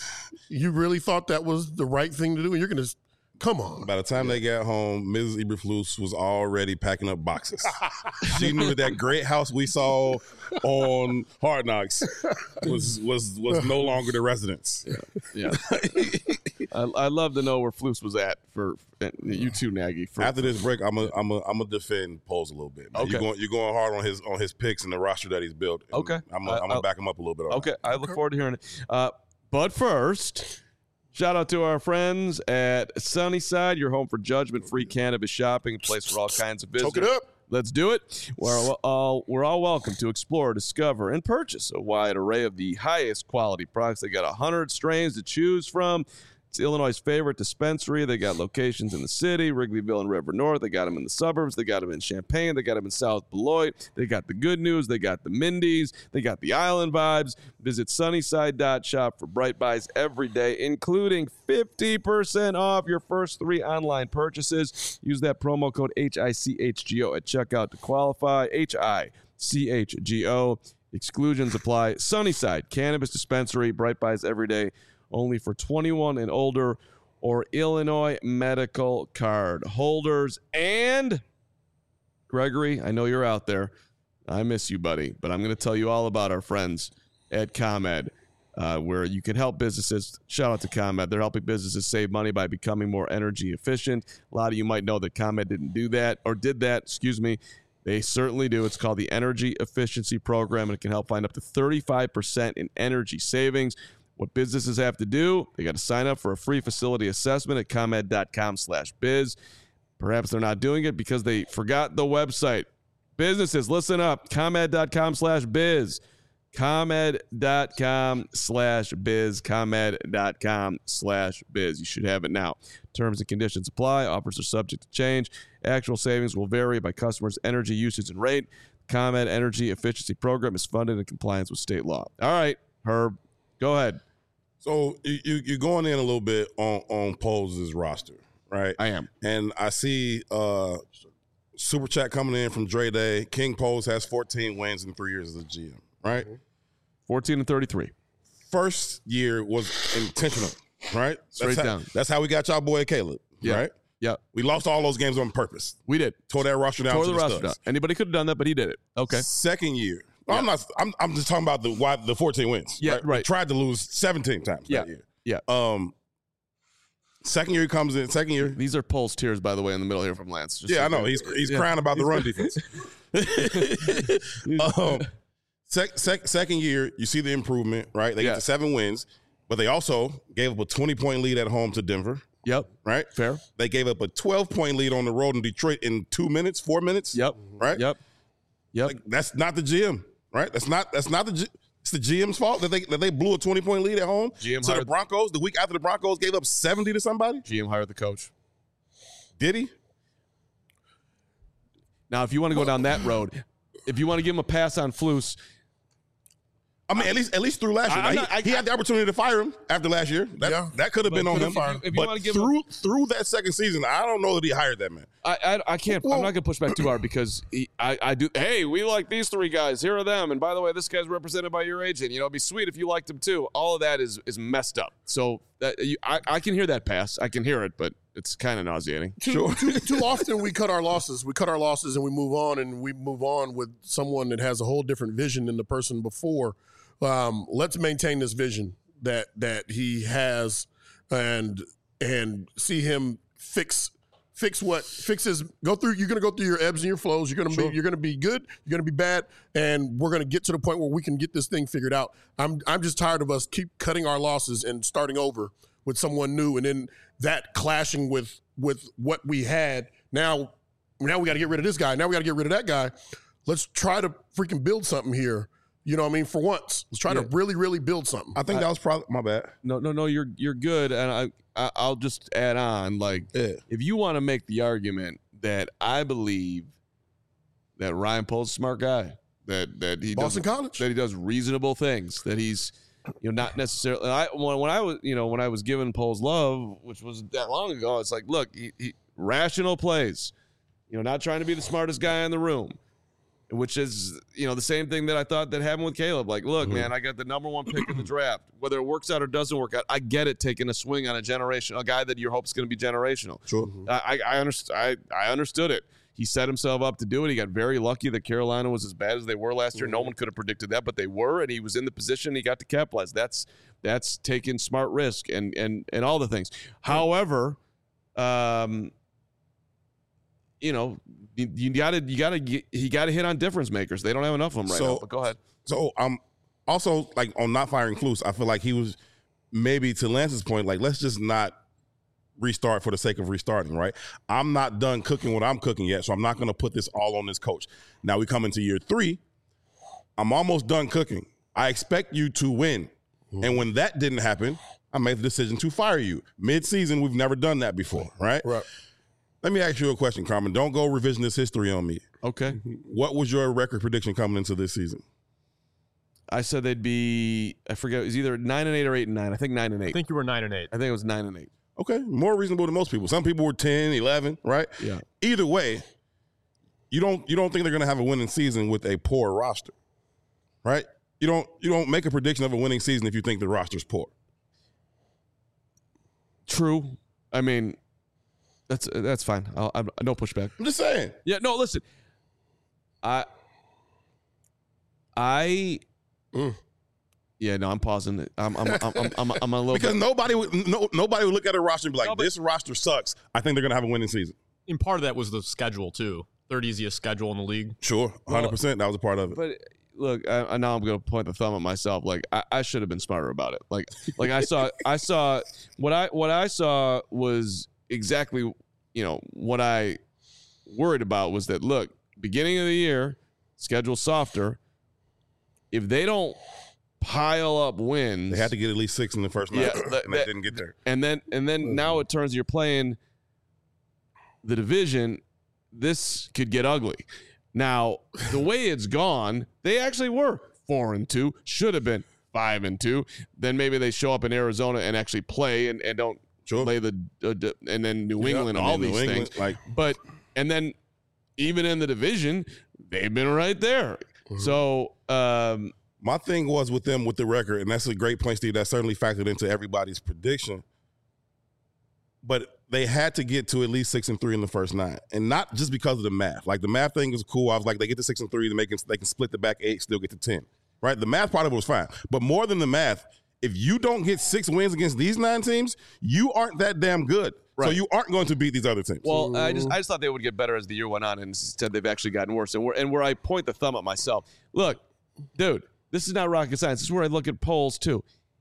You really thought that was the right thing to do? And you're going to, come on. By the time yeah. they got home, Missus Eberflus was already packing up boxes. She knew that great house we saw on Hard Knocks was was was no longer the residence. Yeah, yeah. I, I love to know where Flus was at for you too, Nagy. For, After this break, I'm a I'm a I'm gonna defend Poles a little bit. Man. Okay, you're going you're going hard on his on his picks and the roster that he's built. Okay, I'm a, I'm gonna back him up a little bit. On okay, that. I look forward to hearing it. Uh, but first. Shout out to our friends at Sunnyside, your home for judgment-free cannabis shopping, a place for all kinds of business. Talk it up. Let's do it. We're all, we're all welcome to explore, discover, and purchase a wide array of the highest quality products. They got one hundred strains to choose from. It's Illinois' favorite dispensary. They got locations in the city, Wrigleyville and River North. They got them in the suburbs. They got them in Champaign. They got them in South Beloit. They got the good news. They got the Mindy's. They got the Island Vibes. Visit sunnyside dot shop for bright buys every day, including fifty percent off your first three online purchases. Use that promo code H I C H G O at checkout to qualify. H I C H G O. Exclusions apply. Sunnyside Cannabis Dispensary. Bright buys every day. Only for twenty-one and older or Illinois medical card holders. And Gregory, I know you're out there. I miss you, buddy, but I'm going to tell you all about our friends at ComEd, uh, where you can help businesses. Shout out to ComEd. They're helping businesses save money by becoming more energy efficient. A lot of you might know that ComEd didn't do that or did that, excuse me. They certainly do. It's called the Energy Efficiency Program, and it can help find up to thirty-five percent in energy savings. What businesses have to do, they got to sign up for a free facility assessment at comed dot com slash biz. Perhaps they're not doing it because they forgot the website. Businesses, listen up, comed dot com slash biz. comed dot com slash biz. comed dot com slash biz. You should have it now. Terms and conditions apply. Offers are subject to change. Actual savings will vary by customers' energy usage and rate. ComEd Energy Efficiency Program is funded in compliance with state law. All right, Herb, go ahead. So you, you're going in a little bit on, on Poles' roster, right? I am. And I see uh, Super Chat coming in from Dre Day. King Poles has fourteen wins in three years as a G M, right? fourteen and thirty-three. First year was intentional, right? Straight that's down. How, that's how we got y'all boy Caleb, yeah. right? Yeah. We lost all those games on purpose. We did. Tore that roster down. Tore to the, the roster down. Anybody could have done that, but he did it. Okay. Second year. Yeah. I'm not. I'm. I'm just talking about the why the fourteen wins. Yeah, right. right. We tried to lose seventeen times yeah. that year. Yeah. Um. Second year he comes in. Second year. These are Poles tears, by the way, in the middle here from Lance. Just yeah, so I know. He's he's yeah. crying about the run defense. um. Sec, sec, second year, you see the improvement, right? They yeah. get to seven wins, but they also gave up a twenty-point lead at home to Denver. Yep. Right? Fair. They gave up a twelve-point lead on the road in Detroit in two minutes, four minutes. Yep. Right? Yep. Yep. Like, that's not the G M, right? That's not that's not the G- it's the G M's fault that they that they blew a twenty-point lead at home. G M to the Broncos the week after the Broncos gave up seventy to somebody. G M hired the coach. Did he? Now, if you want to go down that road, if you want to give him a pass on Flus, I mean, at least at least through last year. Not, he, I, he had the opportunity to fire him after last year. That, yeah, that could have been on him. If you, if you but give through him, through that second season, I don't know that he hired that man. I I, I can't. Well, I'm not going to push back too hard because he, I I do. Hey, we like these three guys. Here are them. And by the way, this guy's represented by your agent. You know, it'd be sweet if you liked him too. All of that is is messed up. So that, you, I I can hear that pass. I can hear it, but it's kind of nauseating. Too, sure. too, too often we cut our losses. We cut our losses and we move on, and we move on with someone that has a whole different vision than the person before. Um, let's maintain this vision that that he has, and and see him fix fix what fixes. Go through. You're going to go through your ebbs and your flows. You're going to sure. be you're going to be good. You're going to be bad, and we're going to get to the point where we can get this thing figured out. I'm I'm just tired of us keep cutting our losses and starting over with someone new, and then that clashing with with what we had. Now now we got to get rid of this guy. Now we got to get rid of that guy. Let's try to freaking build something here. You know what I mean? For once, let's try yeah. to really, really build something. I think I, that was probably my bad. No, no, no. You're you're good, and I, I I'll just add on. Like, yeah. if you want to make the argument that I believe that Ryan Poles is a smart guy, that that he Boston does, College, that he does reasonable things, that he's you know not necessarily. I when, when I was you know when I was giving Poles love, which was that long ago, it's like look, he, he, rational plays, you know, not trying to be the smartest guy in the room. which is, you know, the same thing that I thought that happened with Caleb. Like, look, mm-hmm. man, I got the number one pick in the draft. Whether it works out or doesn't work out, I get it. Taking a swing on a generation, a guy that you hope is going to be generational. Sure, mm-hmm. I I, underst- I I understood it. He set himself up to do it. He got very lucky that Carolina was as bad as they were last year. Mm-hmm. No one could have predicted that, but they were, and he was in the position. He got to capitalize. That's that's taking smart risk and and and all the things. Mm-hmm. However, um. You know, you, you gotta, you gotta, you gotta hit on difference makers. They don't have enough of them right so, now. But go ahead. So, um, also like on not firing Kluse, I feel like he was maybe to Lance's point, like let's just not restart for the sake of restarting, right? I'm not done cooking what I'm cooking yet, so I'm not going to put this all on this coach. Now we come into year three. I'm almost done cooking. I expect you to win, mm-hmm. and when that didn't happen, I made the decision to fire you mid-season. We've never done that before, right? Right. Let me ask you a question, Carmen. Don't go revisionist history on me. Okay. What was your record prediction coming into this season? I said they'd be, I forget, it was either nine and eight or eight and nine. I think nine and eight. I think you were nine and eight. I think it was nine and eight. Okay. More reasonable than most people. Some people were ten, eleven, right? Yeah. Either way, you don't you don't think they're going to have a winning season with a poor roster, right? You don't you don't make a prediction of a winning season if you think the roster's poor. True. I mean, That's that's fine. I'll, I'm no pushback. I'm just saying. Yeah. No. Listen. I. I. Mm. Yeah. No. I'm pausing it. I'm. I'm. I'm. I'm. I'm, I'm a little because bit. nobody would. No, nobody would look at a roster and be like, no, but, "This roster sucks." I think they're gonna have a winning season. And part of that was the schedule too. Third easiest schedule in the league. Sure, one hundred percent. That was a part of it. But look, I, I now I'm gonna point the thumb at myself. Like I, I should have been smarter about it. Like, like I saw. I saw what I what I saw was. Exactly, you know, what I worried about was that, look, beginning of the year, schedule softer. If they don't pile up wins. They had to get at least six in the first night, yeah, that, and they didn't get there. And then and then mm-hmm. now it turns you're playing the division. This could get ugly. Now, the way it's gone, they actually were four and two, should have been five and two. Then maybe they show up in Arizona and actually play and, and don't Sure. Play the uh, d- and then New England, yeah, all New these England, things. Like, but and then even in the division, they've been right there. Mm-hmm. So um, my thing was with them with the record, and that's a great point, Steve. That certainly factored into everybody's prediction. But they had to get to at least six and three in the first nine, and not just because of the math. Like the math thing is cool. I was like, they get to six and three, they make they can split the back eight, still get to ten. Right? The math part of it was fine, but more than the math. If you don't get six wins against these nine teams, you aren't that damn good. Right. So you aren't going to beat these other teams. Well, I just I just thought they would get better as the year went on, and instead they've actually gotten worse. And where and where I point the thumb at myself, look, dude, this is not rocket science. This is where I look at polls too.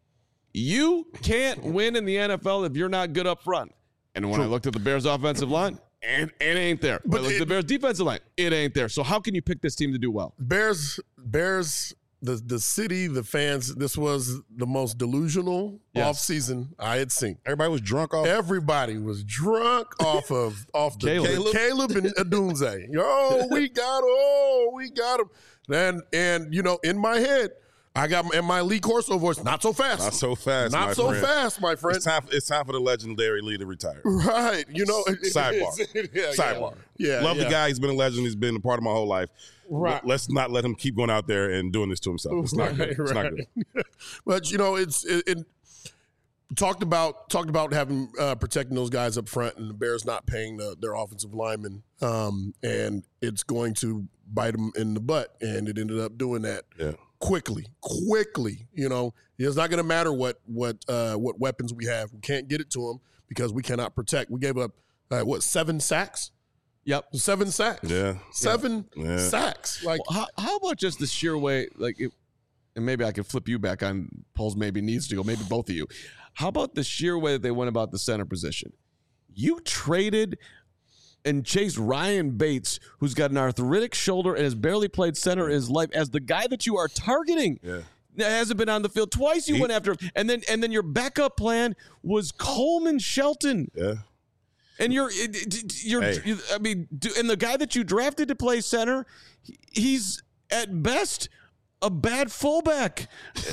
You can't win in the N F L if you're not good up front. And when True. I looked at the Bears' offensive line, and it ain't there. But when I looked at the Bears' defensive line, it ain't there. So how can you pick this team to do well? Bears, Bears. The the city, the fans, this was the most delusional yes. offseason I had seen. Everybody was drunk off. Everybody was drunk off of off the Caleb, Caleb, Caleb and Odunze. Oh, we got oh, we got him. And and you know, in my head, I got in my Lee Corso voice, not so fast. Not so fast. Not my so friend. fast, my friend. It's time, it's time for the legendary Lee to retire. Right. You know, sidebar. yeah, sidebar. Yeah. Love yeah. the guy. He's been a legend. He's been a part of my whole life. Right. Let's not let him keep going out there and doing this to himself. It's not right, good. It's right. not good. But you know, it's it, it talked about talked about having uh, protecting those guys up front, and the Bears not paying the, their offensive linemen, um, and it's going to bite them in the butt, and it ended up doing that. Yeah. Quickly, quickly, you know, it's not going to matter what what uh, what weapons we have. We can't get it to them because we cannot protect. We gave up uh, what seven sacks. Yep, seven sacks. Yeah, seven yeah. sacks. Like, well, how, how about just the sheer way? Like, it, and maybe I can flip you back on polls. Maybe needs to go. Maybe both of you. How about the sheer way that they went about the center position? You traded and chased Ryan Bates, who's got an arthritic shoulder and has barely played center in his life, as the guy that you are targeting. Yeah. That hasn't been on the field twice. You he, went after him, and then and then your backup plan was Coleman Shelton. Yeah. And you're, you're, hey. you're I mean, and the guy that you drafted to play center, he's at best a bad fullback.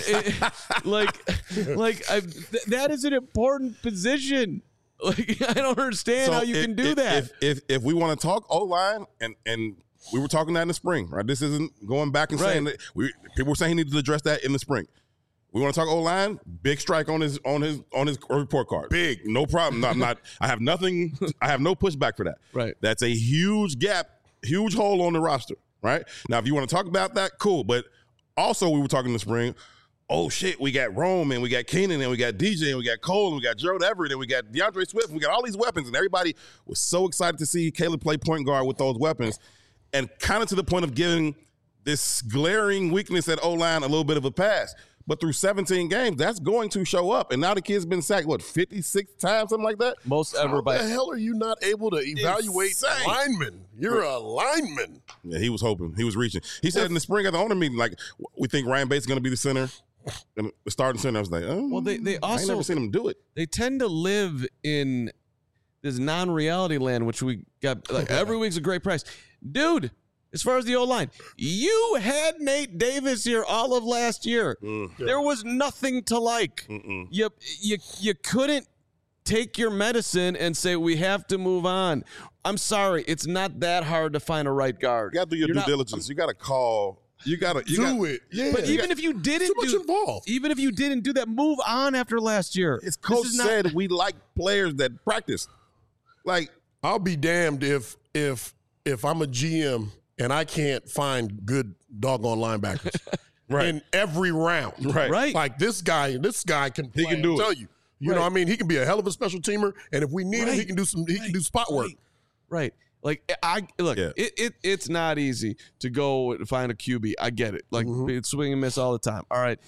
like, like I, th- that is an important position. Like, I don't understand so how you if, can do if, that. If if, if we want to talk O-line and and we were talking that in the spring, right? This isn't going back and Right. saying that we people were saying he needed to address that in the spring. We want to talk O-line, big strike on his on his on his report card. Big. No problem. No, I'm not I have nothing I have no pushback for that. Right. That's a huge gap, huge hole on the roster, right? Now if you want to talk about that, cool. But also we were talking in the spring, oh shit, we got Rome and we got Keenan and we got D J and we got Cole and we got Gerald Everett and we got DeAndre Swift and we got all these weapons, and everybody was so excited to see Caleb play point guard with those weapons, and kind of to the point of giving this glaring weakness at O-line a little bit of a pass. But through seventeen games, that's going to show up. And now the kid's been sacked, what, fifty-six times, something like that? Most ever How by the hell are you not able to evaluate Insane. linemen? You're a lineman. Yeah, he was hoping. He was reaching. He said in the spring at the owner meeting, like, we think Ryan Bates is going to be the center, the starting center. I was like, oh, Well, they- they I ain't also- never seen him do it. they tend to live in this non-reality land, which we got like every week's a great price. Dude, as far as the O-line, you had Nate Davis here all of last year. Mm. There was nothing to like. Mm-mm. You, you, you couldn't take your medicine and say, we have to move on. I'm sorry. It's not that hard to find a right guard. You got to do your You're due not- diligence. You got to call. You got to you do got, it. Yeah. But even if you didn't too much do, involved. even if you didn't do that, move on after last year. His This coach is not- said we like players that practice. Like, I'll be damned if if if I'm a G M and I can't find good doggone linebackers Right. in every round. right. Right. Like this guy, this guy can play, He can do I'll it. tell you. You know Right. what I mean? He can be a hell of a special teamer, and if we need him, he Right. can do some he can do spot work. Right. Like I look, Yeah. it, it it's not easy to go and find a Q B. I get it. Like Mhm. it's swing and miss all the time. All right.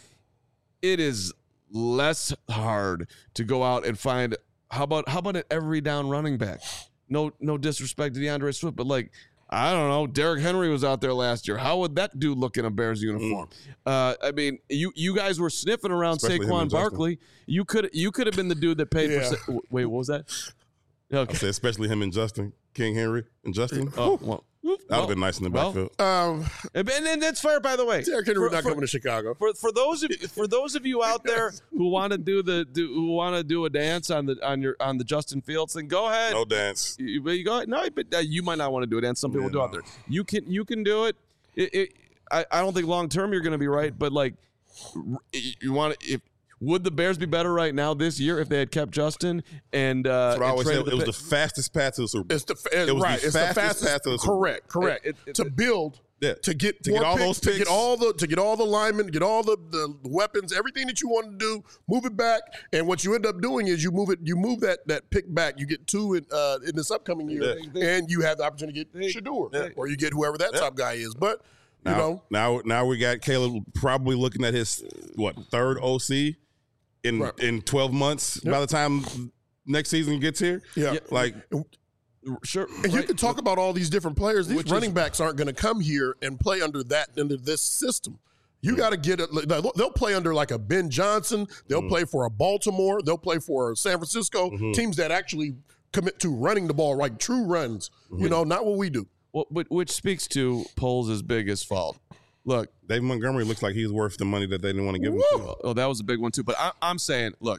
It is less hard to go out and find how about how about an every down running back? No no disrespect to DeAndre Swift, but like I don't know. Derrick Henry was out there last year. How would that dude look in a Bears uniform? Uh, I mean, you you guys were sniffing around Especially him Saquon and Justin. Barkley. You could you could have been the dude that paid Yeah. for. Sa- wait, what was that? I Okay. said, especially him and Justin, King Henry and Justin. Oh, well, that would well, have been nice in the well, backfield. Um, And, and that's fair, by the way. Derrick Henry's For- not for- coming to Chicago. For for those of for those of you out there who want to do the do, who want to do a dance on the on your on the Justin Fields thing, go ahead. No dance. You, but you go no, but uh, you might not want to do a dance. Some people Yeah, do out no. there. You can you can do it. It, it I, I don't think long term you're going to be right, but like r- you want to if. Would the Bears be better right now this year if they had kept Justin and uh, That's what I and always said. traded It was pick? the fastest path to the Super Bowl. It's the it, It was the right. It's the fastest fastest. path to the Super Bowl. correct. Correct. It- it- to build. Yeah. To get To more get all picks, those to get picks. all the to get all the linemen, get all the, the weapons, everything that you want to do, move it back. And what you end up doing is you move it, you move that that pick back. You get two in uh, in this upcoming year, Yeah. and you have the opportunity to get Shador, Yeah. or you get whoever that top guy is. But you Now, know, now, now we got Caleb probably looking at his what third O C in Right. in twelve months. By the time next season gets here, yeah. Yeah. like Sure, And you right. can talk about all these different players. These Which running is- backs aren't going to come here and play under that under this system. You got to get it. They'll play under like a Ben Johnson. They'll Mm-hmm. play for a Baltimore. They'll play for San Francisco. Teams that actually commit to running the ball, like true runs. Mm-hmm. You know, not what we do. Well, but which speaks to Poles' biggest fault. Look, Dave Montgomery looks like he's worth the money that they didn't want to give him. To. oh, that was a big one too. But I, I'm saying, look,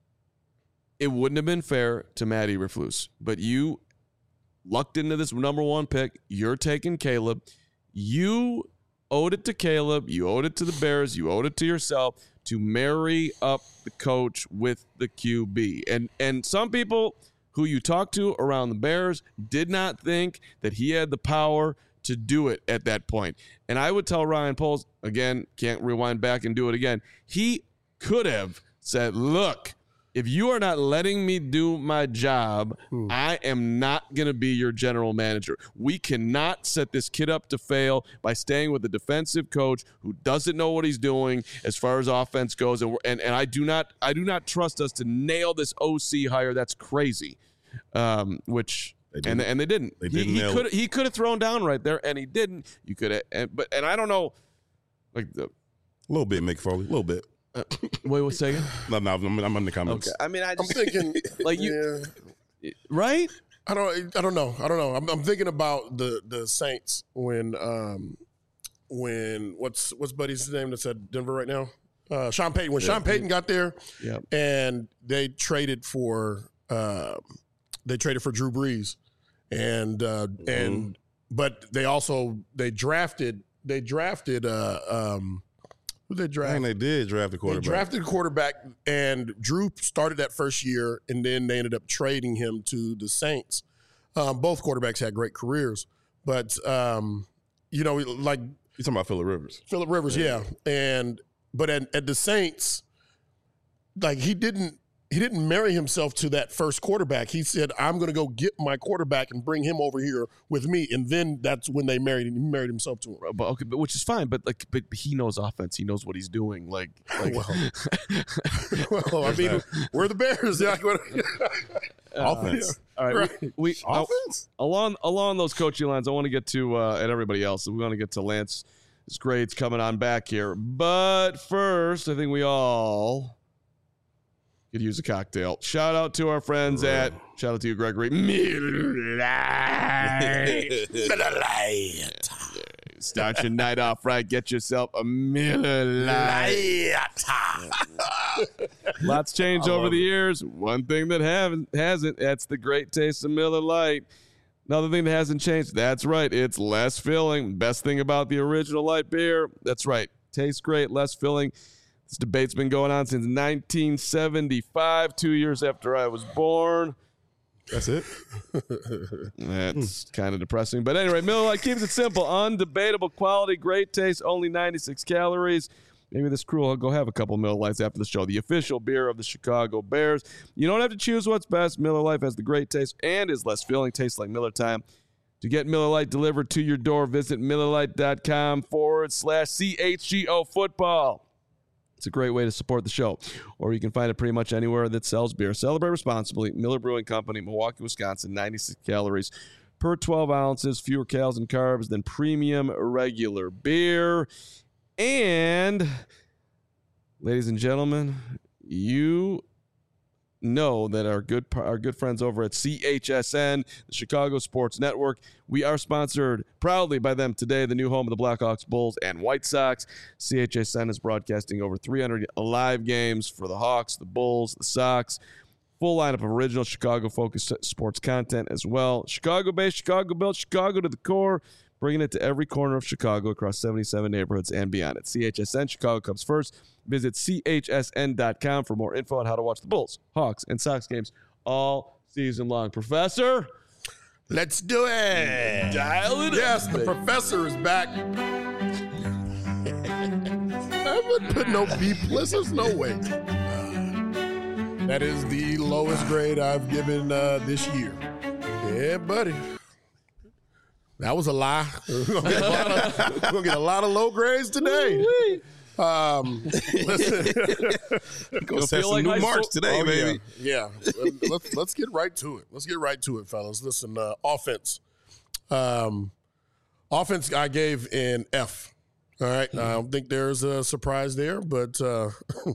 it wouldn't have been fair to Matt Eberflus, but you lucked into this number one pick. You're taking Caleb. You owed it to Caleb. You owed it to the Bears. You owed it to yourself to marry up the coach with the Q B. And and some people who you talked to around the Bears did not think that he had the power to do it at that point. And I would tell Ryan Poles, again, can't rewind back and do it again. He could have said, look, if you are not letting me do my job, I am not going to be your general manager. We cannot set this kid up to fail by staying with a defensive coach who doesn't know what he's doing as far as offense goes. And, we're- and, and I do not I do not trust us to nail this O C hire. That's crazy. Um, which They and didn't. and they didn't. They he didn't he nail could it. he could have thrown down right there, and he didn't. You could have, and, but and I don't know, like the A little bit, Mick Foley, a little bit. uh, wait one second. No, no, I'm, I'm in the comments. Okay, I mean I I'm just thinking, like you yeah. right. I don't. I don't know. I don't know. I'm, I'm thinking about the the Saints when um when what's what's Buddy's name that's at Denver right now? Uh, Sean Payton. When Sean Payton got there, Yeah. and they traded for uh, they traded for Drew Brees, and uh, and but they also they drafted they drafted uh, um, who they I drafted? think they did draft the They quarterback. drafted a quarterback, and Drew started that first year, and then they ended up trading him to the Saints. Um, both quarterbacks had great careers, but um, you know, like You talking about Phillip Rivers? Phillip Rivers, yeah. And but at, at the Saints, like he didn't he didn't marry himself to that first quarterback. He said, "I'm going to go get my quarterback and bring him over here with me." And then that's when they married. He married himself to him. But okay, but which is fine. But like, but he knows offense. He knows what he's doing. Like, like Well, well, I mean, we're the Bears. Yeah, Offense. all right, Right. we, we Offense? along along those coaching lines. I want to get to uh, and everybody else. We want to get to Lance's grades coming on back here. But first, I think we all could use a cocktail. Shout out to our friends at shout out to you, Gregory. Miller Lite. Miller Lite. Start your night off right. Get yourself a Miller Lite. Lots changed over the years. One thing that haven't hasn't, that's the great taste of Miller Lite. Another thing that hasn't changed, that's right, it's less filling. Best thing about the original light beer, that's right, tastes great, less filling. This debate's been going on since nineteen seventy-five, two years after I was born. That's it. That's kind of depressing. But anyway, Miller Lite keeps it simple. Undebatable quality, great taste, only ninety-six calories. Maybe this crew will go have a couple Miller Lites after the show. The official beer of the Chicago Bears. You don't have to choose what's best. Miller Lite has the great taste and is less filling. Tastes like Miller time. To get Miller Lite delivered to your door, visit MillerLite.com forward slash CHGO football. It's a great way to support the show. Or you can find it pretty much anywhere that sells beer. Celebrate responsibly. Miller Brewing Company, Milwaukee, Wisconsin, ninety-six calories per twelve ounces, fewer calories and carbs than premium regular beer. And, ladies and gentlemen, you know that our good our good friends over at C H S N, the Chicago Sports Network, we are sponsored proudly by them today, the new home of the Blackhawks, Bulls, and White Sox. C H S N is broadcasting over three hundred live games for the Hawks, the Bulls, the Sox. Full lineup of original Chicago-focused sports content as well. Chicago-based, Chicago-built, Chicago to the core, bringing it to every corner of Chicago across seventy-seven neighborhoods and beyond. At C H S N, Chicago comes first. Visit C H S N dot com for more info on how to watch the Bulls, Hawks, and Sox games all season long. Professor? Let's do it. Dial it Yes, up, the baby. professor is back. I would put no B plus. There's no way. That is the lowest grade I've given uh, this year. Yeah, buddy. That was a lie. We're gonna get a lot of, we're gonna get a lot of low grades today. Um, listen. Gonna set feel some like new high marks school- today, Oh, baby. Yeah. yeah. let's let's get right to it. Let's get right to it, fellas. Listen, uh, offense. Um, offense I gave an F. All right. I don't think there's a surprise there, but uh,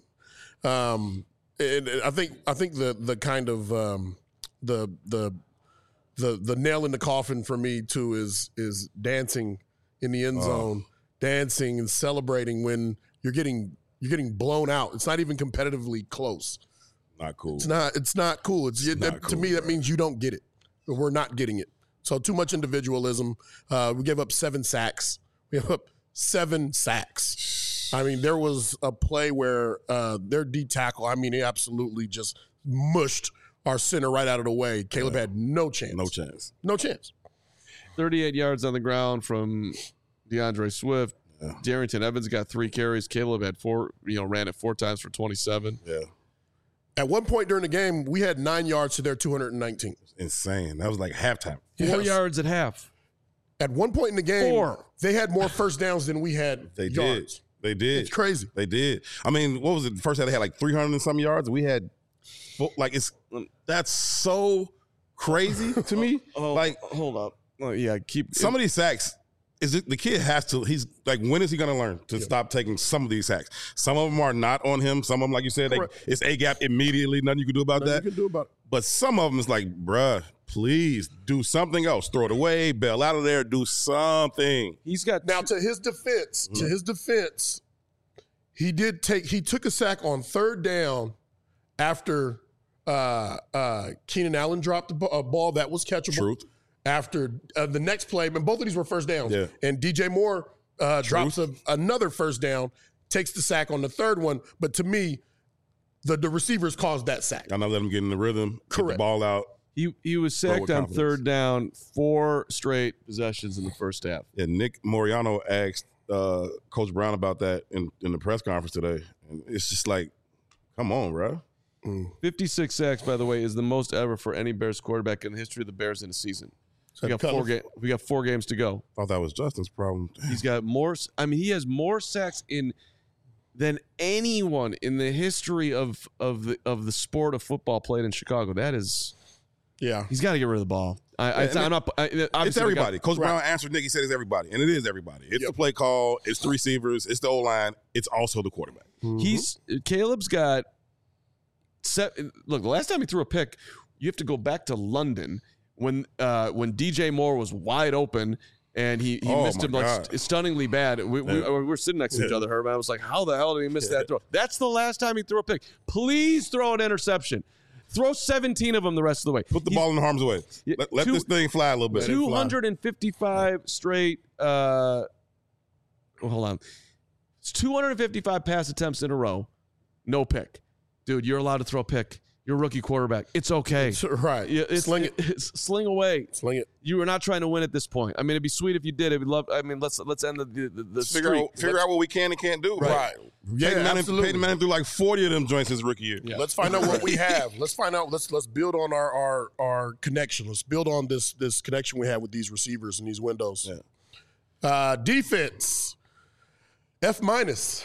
um, and I think I think the the kind of um, the the the the nail in the coffin for me too is is dancing in the end zone, dancing and celebrating when you're getting you're getting blown out. It's not even competitively close. Not cool. It's not. It's not cool. It's, It's that, not to cool, me that bro. means you don't get it. We're not getting it. So too much individualism. Uh, we gave up seven sacks. We gave up seven sacks. I mean, there was a play where uh, their D tackle. I mean, he absolutely just mushed our center right out of the way. Caleb had no chance. No chance. No chance. thirty-eight yards on the ground from DeAndre Swift. Yeah. Darrington Evans got three carries. Caleb had four, you know, ran it four times for twenty-seven. Yeah. At one point during the game, we had nine yards to their two hundred nineteen. Insane. That was like halftime. Four Yes. yards at half. At one point in the game, Four. they had more first downs than we had They yards. did. They did. It's crazy. They did. I mean, what was it? The first half they had like three hundred and some yards. We had, four, like, it's that's so crazy to me. Oh, Like, hold up. Oh, yeah, keep some of these sacks, is it, the kid has to, he's like, when is he going to learn to stop taking some of these sacks? Some of them are not on him. Some of them, like you said, they, Correct. it's A-gap immediately. Nothing you can do about Nothing that. you can do about it. But some of them is like, bruh, please do something else. Throw it away, bail out of there, do something. He's got Now, to his defense, to his defense, he did take he took a sack on third down after uh, uh, Keenan Allen dropped a b- a ball that was catchable. Truth. after uh, the next play, and both of these were first downs. Yeah. And D J Moore uh, drops a, another first down, takes the sack on the third one. But to me, the, the receivers caused that sack. I'm not letting him get in the rhythm, Correct. get the ball out. He he was Throw sacked with on confidence. third down, four straight possessions in the first half. And Nick Moriano asked uh, Coach Brown about that in, in the press conference today. And it's just like, come on, bro. fifty-six sacks, by the way, is the most ever for any Bears quarterback in the history of the Bears in a season. We got four ga- We got four games to go. Thought that was Justin's problem. He's got more. I mean, he has more sacks in than anyone in the history of of the of the sport of football played in Chicago. That is, Yeah. he's got to get rid of the ball. I, Yeah, I, and I'm it- not. I, It's obviously everybody. they got- Coach Brown answered Nick. He said it's everybody. And it is everybody. It's Yep. the play call. It's the receivers. It's the O-line. It's also the quarterback. He's Caleb's got. Set, look, the last time he threw a pick, you have to go back to London when uh, when D J Moore was wide open and he, he Oh, missed my him like God. st- stunningly bad. We, we, Yeah. we were sitting next to each Yeah. other, Herb. And I was like, how the hell did he miss that throw? That's the last time he threw a pick. Please throw an interception. Throw seventeen of them the rest of the way. Put the He's ball in harm's way. Yeah, Let, let two- this thing fly a little bit. two hundred fifty-five straight. Uh, well, hold on. It's two hundred fifty-five pass attempts in a row. No pick. Dude, you're allowed to throw a pick. You're a rookie quarterback. It's okay. Right. Yeah, it's, Sling it. It's, sling away. Sling it. You are not trying to win at this point. I mean, it'd be sweet if you did. It'd be love. I mean, let's let's end the the, the, the Figure streak. out, figure out what we can and can't do. Right. Yeah, Peyton Manning, absolutely. Peyton Manning threw like forty of them joints his rookie year. Let's find out what we have. Let's find out. Let's let's build on our our our connection. Let's build on this this connection we have with these receivers and these windows. Yeah. Uh, defense. F minus.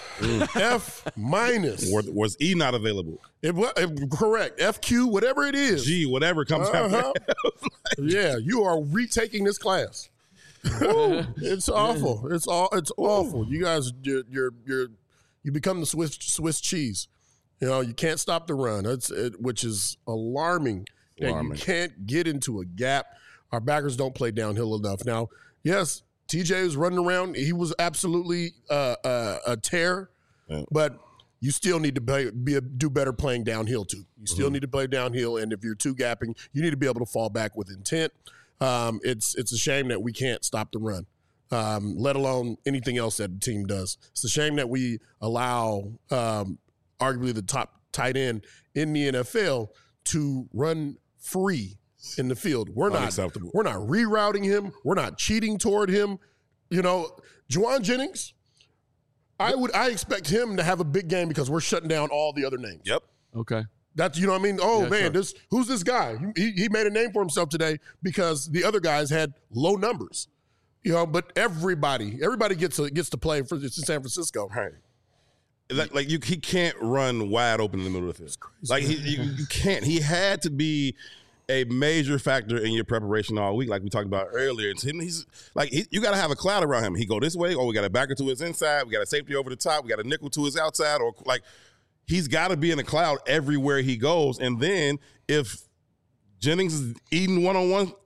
F minus. Was, was E not available? It was correct. F Q, whatever it is. G, whatever comes Uh-huh. after. Yeah, you are retaking this class. Woo, it's awful. It's all. It's awful. You guys, you're, you're, you're, you become the Swiss Swiss cheese. You know, you can't stop the run. It's it, which is alarming. That Alarming. you can't get into a gap. Our backers don't play downhill enough. Now, yes, T J was running around. He was absolutely uh, uh, a tear, Yeah. but you still need to play, be a, do better playing downhill too. You still Mm-hmm. need to play downhill, and if you're two gapping, you need to be able to fall back with intent. Um, it's it's a shame that we can't stop the run, um, let alone anything else that the team does. It's a shame that we allow um, arguably the top tight end in the N F L to run free in the field. We're not Unacceptable. we're not rerouting him. We're not cheating toward him. You know, Juwan Jennings, I would I expect him to have a big game because we're shutting down all the other names. Yep. Okay. That's, you know what I mean? Oh, Yeah, man, sure. this who's this guy? He, he made a name for himself today because the other guys had low numbers. You know, but everybody, everybody gets to, gets to play for it's in San Francisco. Right. Like, like you, he can't run wide open in the middle of the field. Like he, you, you can't. He had to be a major factor in your preparation all week, like we talked about earlier. It's him. He's like he, you got to have a cloud around him. He go this way, or we got a backer to his inside. We got a safety over the top. We got a nickel to his outside, or like he's got to be in a cloud everywhere he goes. And then if Jennings is eating one on one,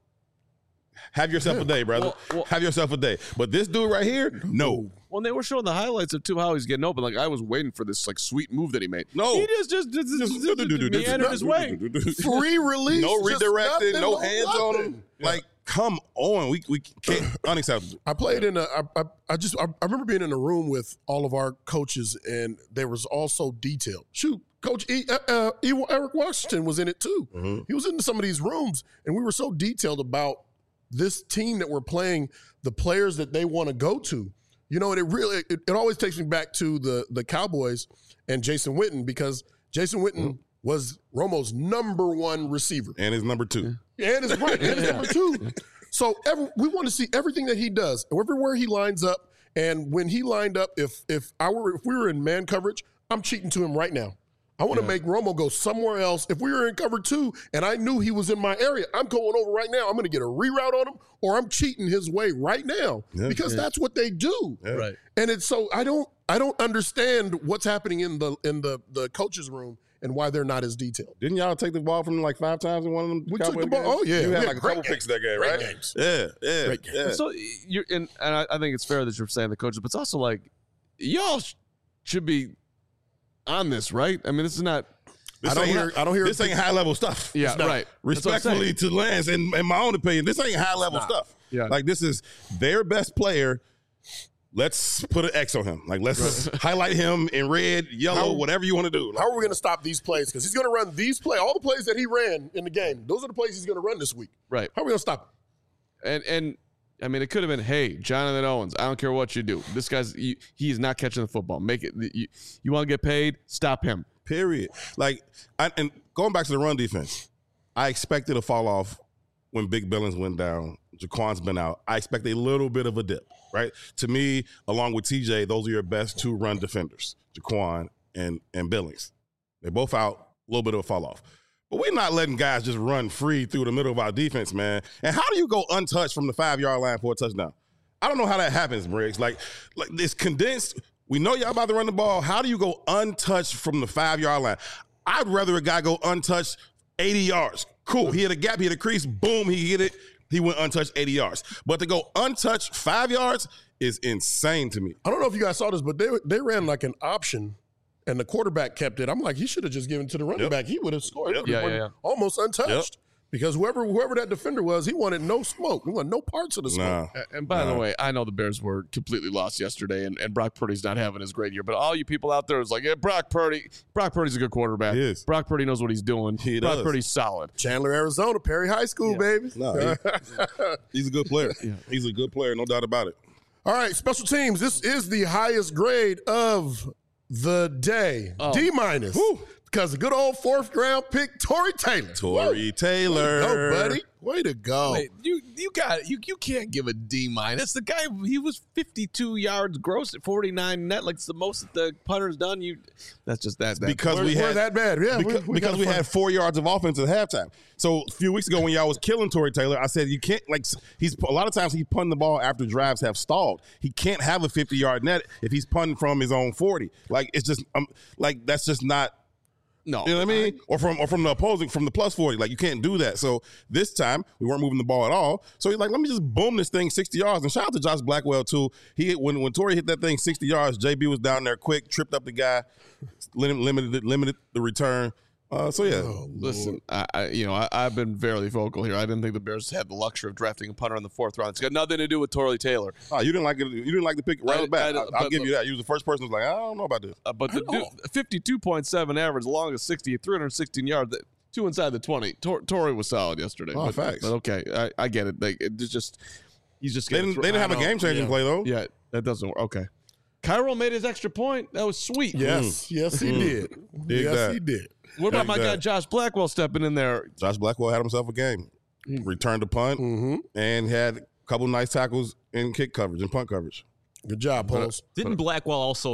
have yourself a day, brother. Well, well- have yourself a day. But this dude right here, no. When they were showing the highlights of too how he's getting open, like I was waiting for this like sweet move that he made. No. he just just, just, just, just meandered his way. Free release. No just redirecting, nothing, no hands on him. nothing. Like, come on, we we can't unacceptable. I played in a. I, I, I just. I, I remember being in a room with all of our coaches, and there was also detail. Shoot, Coach e, uh, uh, e, Eric Washington was in it too. Mm-hmm. He was in some of these rooms, and we were so detailed about this team that we're playing, the players that they want to go to. You know, and it really it, it always takes me back to the the Cowboys and Jason Witten, because Jason Witten Mm-hmm. was Romo's number one receiver. And his number two. And it's right. And it's number two. So every, we want to see everything that he does, everywhere he lines up. And when he lined up, if if I were if we were in man coverage, I'm cheating to him right now. I want to make Romo go somewhere else. If we were in cover two and I knew he was in my area, I'm going over right now. I'm going to get a reroute on him, or I'm cheating his way right now, Yeah. because that's what they do. Right. And it's so I don't I don't understand what's happening in the in the the coaches room and why they're not as detailed. Didn't y'all take the ball from him like five times in one of them? We took Cowboy the ball- games? oh, yeah. You had Yeah, like a great couple game. picks that game, Great right? games. Yeah, yeah, Great games. yeah. So you're and, and I, I think it's fair that you're saying the coaches, but it's also like y'all sh- should be on this, right? I mean, this is not. This I don't ain't- hear. I don't hear. This ain't high level stuff. Yeah, not. right. That's what I'm Respectfully saying. to Lance, and in my own opinion, this ain't high level stuff. Yeah. Like this is their best player. Let's put an X on him. Like let's highlight him in red, yellow, How- whatever you want to do. Like, How are we going to stop these plays? Because he's going to run these plays. All the plays that he ran in the game, those are the plays he's going to run this week. Right. How are we going to stop him? And and I mean, it could have been, hey, Jonathan Owens, I don't care what you do. This guy's he, he is not catching the football. Make it. You, you want to get paid? Stop him. Period. Like, I, and going back to the run defense, I expected a fall off when Big Billings went down. Jaquan's been out. I expect a little bit of a dip, right? To me, along with T J, those are your best two run defenders, Jaquan and and Billings. They're both out. A little bit of a fall off. But we're not letting guys just run free through the middle of our defense, man. And how do you go untouched from the five-yard line for a touchdown? I don't know how that happens, Briggs. Like, like it's condensed. We know y'all about to run the ball. How do you go untouched from the five-yard line? I'd rather a guy go untouched eighty yards. Cool. He hit a gap. He hit a crease. Boom. He hit it. He went untouched eighty yards. But to go untouched five yards is insane to me. I don't know if you guys saw this, but they they ran like an option, and the quarterback kept it. I'm like, he should have just given it to the running Yep. back. He would have scored. Yep. He Yeah, would've yeah, won almost untouched. Because whoever whoever that defender was, he wanted no smoke. He wanted no parts of the smoke. Nah. A- And by the Nah. way, I know the Bears were completely lost yesterday, and, and Brock Purdy's not having his great year. But all you people out there is like, yeah, Brock Purdy. Brock Purdy's a good quarterback. He is. Brock Purdy knows what he's doing. He Brock does. Purdy's solid. Chandler, Arizona, Perry High School, baby. No, he- he's a good player. He's a good player, no doubt about it. All right, special teams. This is the highest grade of the day. Oh. D minus. Because the good old fourth round pick, Tory Taylor. Tory Taylor. Go, buddy. Way to go. Wait, you you got you you can't give a D minus. The guy, he was fifty-two yards gross at forty-nine net. Like it's the most that the punter's done. You that's just that, that Because We're, we we're had that bad. Yeah, because, we, we because gotta we find- had four yards of offense at halftime. So a few weeks ago when y'all was killing Tory Taylor, I said you can't like he's a lot of times he's punting the ball after drives have stalled. He can't have a fifty yard net if he's punting from his own forty. Like it's just um, like that's just not. No. You know what I mean? Or from or from the opposing, from the plus forty. Like, you can't do that. So this time, we weren't moving the ball at all. So he's like, let me just boom this thing sixty yards. And shout out to Josh Blackwell, too. He hit, when, when Torrey hit that thing sixty yards, J B was down there quick, tripped up the guy, lim- limited, limited the return. Uh, so, yeah. Oh, Listen, I, I you know I, I've been fairly vocal here. I didn't think the Bears had the luxury of drafting a punter in the fourth round. It's got nothing to do with Tory Taylor. Oh, you didn't like it. You didn't like the pick right I- back. I- I, will but- give you that. You was the first person who's like, I don't know about this. Uh, but the dude, fifty-two point seven average, long as sixty, three hundred sixteen yards, that- two inside the twenty. Tor- Tory was solid yesterday. Oh, but, facts. but okay, I, I get it. Like, it's just he's just They getting didn't, they didn't have a I know. game changing Yeah. play though. Yeah, that doesn't work. Okay, Cairo made his extra point. That was sweet. Yes, yes, he did. Dig yes, that. he did. What about Like my guy that. Josh Blackwell stepping in there? Josh Blackwell had himself a game. Returned a punt Mm-hmm. and had a couple nice tackles in kick coverage and punt coverage. Good job, Pauls. Didn't Blackwell also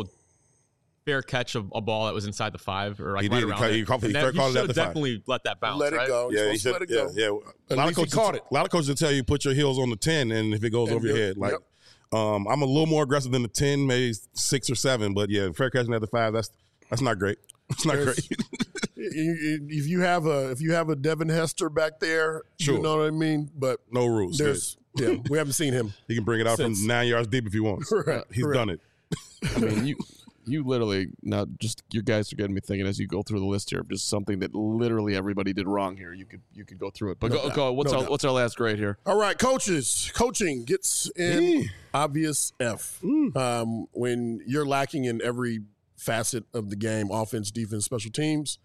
fair catch a, a ball that was inside the five or like He right did. He around ca- it? he caught- he And fair that- called it at should've the five. definitely let that bounce, Let it right? go. You're Yeah, he supposed should. to let it Yeah, go. yeah. At A lot of least he coaches caught it. A lot of coaches will tell you put your heels on the ten, and if it goes And over your do it. head, like Yep. um, I'm a little more aggressive than the ten, maybe six or seven, but yeah, fair catching at the five. That's that's not great. It's not There's- great. You- you- If you have a if you have a Devin Hester back there, Sure. you know what I mean. But No rules. there's yeah, we haven't seen him. He can bring it out Since- from nine yards deep if he wants. Correct, He's correct. done it. I mean, you you literally now just your guys are getting me thinking as you go through the list here of just something that literally everybody did wrong here. You could you could go through it, but No go, doubt. go. What's No our doubt. what's our last grade here? All right, coaches. Coaching gets in obvious F. Um, when you're lacking in every facet of the game, offense, defense, special teams,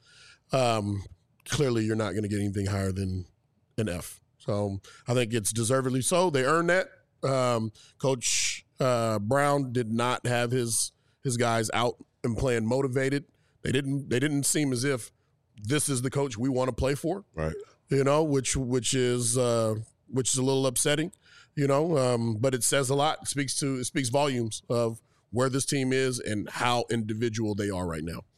um, clearly you're not going to get anything higher than an F. So I think it's deservedly so. They earned that. Um, Coach uh, Brown did not have his his guys out and playing motivated. They didn't. They didn't seem as if this is the coach we want to play for. Right. You know, which which is uh, which is a little upsetting. You know, um, but it says a lot. It speaks to it speaks volumes of where this team is and how individual they are right now.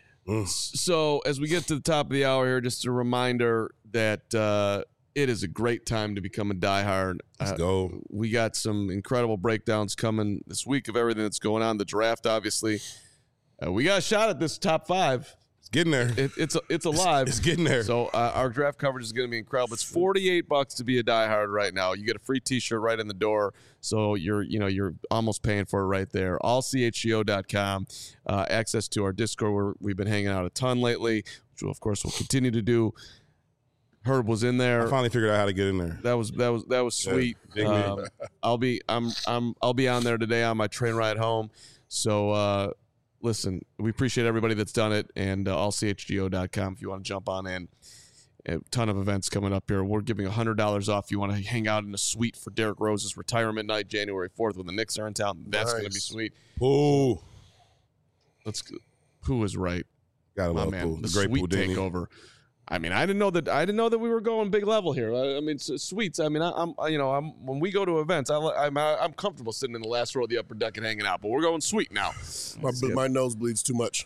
So as we get to the top of the hour here, just a reminder that uh, it is a great time to become a diehard. Let's Uh, go. We got some incredible breakdowns coming this week of everything that's going on. The draft, obviously. Uh, we got a shot at this top five. Let's getting there. It, it's it's alive. It's, it's getting there. So uh, our draft coverage is going to be incredible. It's forty-eight bucks to be a diehard right now. You get a free T-shirt right in the door. So you're you know you're almost paying for it right there. all c h g o dot com. Uh, access to our Discord where we've been hanging out a ton lately, which of course we'll continue to do. Herb was in there. I finally figured out how to get in there. That was that was that was sweet. Yeah, um, I'll be I'm I'm I'll be on there today on my train ride home. So uh, listen, we appreciate everybody that's done it, and uh, all c h g o dot com if you want to jump on in. A ton of events coming up here. We're giving one hundred dollars off if you want to hang out in a suite for Derrick Rose's retirement night, January fourth, when the Knicks are in town. That's Nice. going to be sweet. Ooh, Let's. Pooh is right, gotta my love man. Pooh. The The great suite Pooh takeover. I mean, I didn't know that. I didn't know that we were going big level here. I, I mean, s- suites. I mean, I, I'm, you know, I'm when we go to events, I, li- I'm, I'm comfortable sitting in the last row of the upper deck and hanging out. But we're going suite now. My, my nose bleeds too much.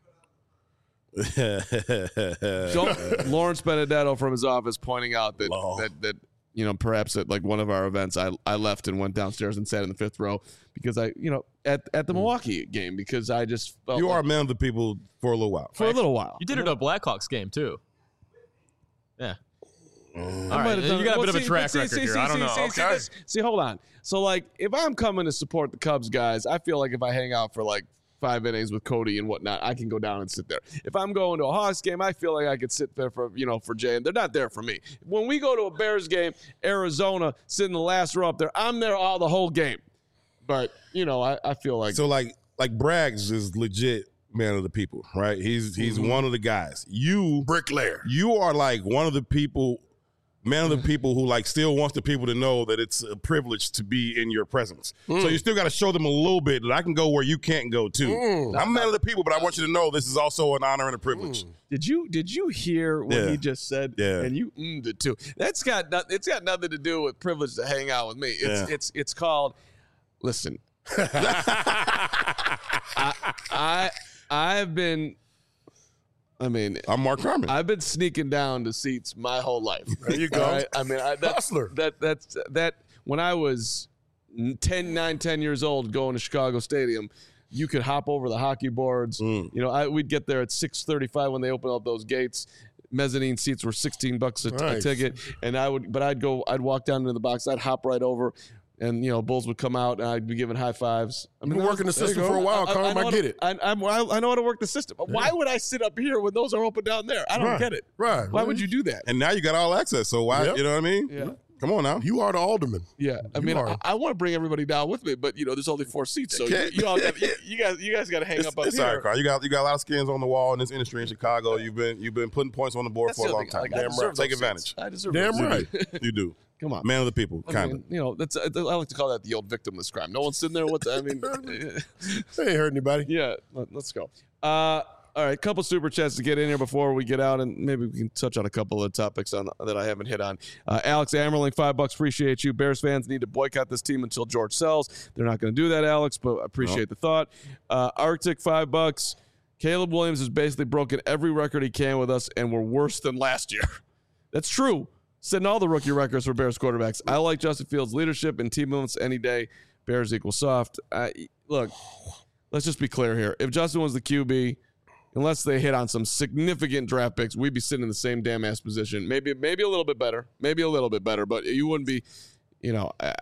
Don't, Lawrence Benedetto from his office pointing out that Law. that that you know perhaps at like one of our events, I I left and went downstairs and sat in the fifth row because I you know at at the Milwaukee game because I just felt You are a like, man of the people for a little while. for a little while. You did it at a Blackhawks game too. Yeah. I All might right, have done you got a well, bit of a see, track see, record see, here. see, I don't see, know. See, see, Okay. this- see, hold on. So, like, if I'm coming to support the Cubs guys, I feel like if I hang out for like five innings with Cody and whatnot, I can go down and sit there. If I'm going to a Hawks game, I feel like I could sit there for you know for Jay, and they're not there for me. When we go to a Bears game, Arizona, sit in the last row up there, I'm there all the whole game. But you know, I, I feel like So like like Braggs is legit man of the people, right? He's he's Mm-hmm. one of the guys. You Bricklayer. you are like one of the people, man of the people who like still wants the people to know that it's a privilege to be in your presence. So you still got to show them a little bit that I can go where you can't go too. I'm a man of the people, but I want you to know this is also an honor and a privilege. Did you did you hear what Yeah. he just said? Yeah. And you ummed it too. That's got not, it's got nothing to do with privilege to hang out with me. It's Yeah. it's it's called. Listen, I, I I've been. I mean, I'm Mark Carmen. I've been sneaking down to seats my whole life. There you go. All right? I mean, I, that's, Hustler. That that's that. When I was ten, nine, ten years old, going to Chicago Stadium, you could hop over the hockey boards. Mm. You know, I, we'd get there at six thirty-five when they opened up those gates. Mezzanine seats were sixteen bucks a, t- a Nice. ticket, and I would, but I'd go, I'd walk down into the box, I'd hop right over. And you know, Bulls would come out, and I'd be giving high fives. I been that was- working the there you system go. for a while, Carm, know I how get to- it. I, I'm, I know how to work the system. But why would I sit up here when those are open down there? I don't Right. get it. Right. Why would you do that? and now you got all access. So why, Yep. you know what I mean? Yeah. Come on now. You are the alderman. Yeah, I You mean, are. I, I want to bring everybody down with me, but you know, there's only four seats, so you, can't. you all got, you, you guys, you guys got to hang It's, up up it's here. all right, Carl. You got you got a lot of skins on the wall in this industry in Chicago. You've been you've been putting points on the board That's for a the long other thing. time. Like, I Damn deserve right. Take those advantage. seats. I deserve Damn those right. seats. You do. Come on. Man of the people, I kind of. mean, you know, that's I like to call that the old victimless crime. No one's sitting there with. I mean, They ain't hurt anybody. yeah. Let, let's go. Uh, all right, couple super chats to get in here before we get out, and maybe we can touch on a couple of topics on that I haven't hit on. Uh, Alex Ammerling, five bucks. Appreciate you. Bears fans need to boycott this team until George sells. They're not going to do that, Alex, but I appreciate the thought. Uh, Arctic, five bucks. Caleb Williams has basically broken every record he can with us, and we're worse than last year. That's true. Setting all the rookie records for Bears quarterbacks. I like Justin Fields' leadership and team movements any day. Bears equal soft. I, look, let's just be clear here. If Justin was the Q B, unless they hit on some significant draft picks, we'd be sitting in the same damn ass position. Maybe, maybe a little bit better. Maybe a little bit better, but you wouldn't be, you know. I,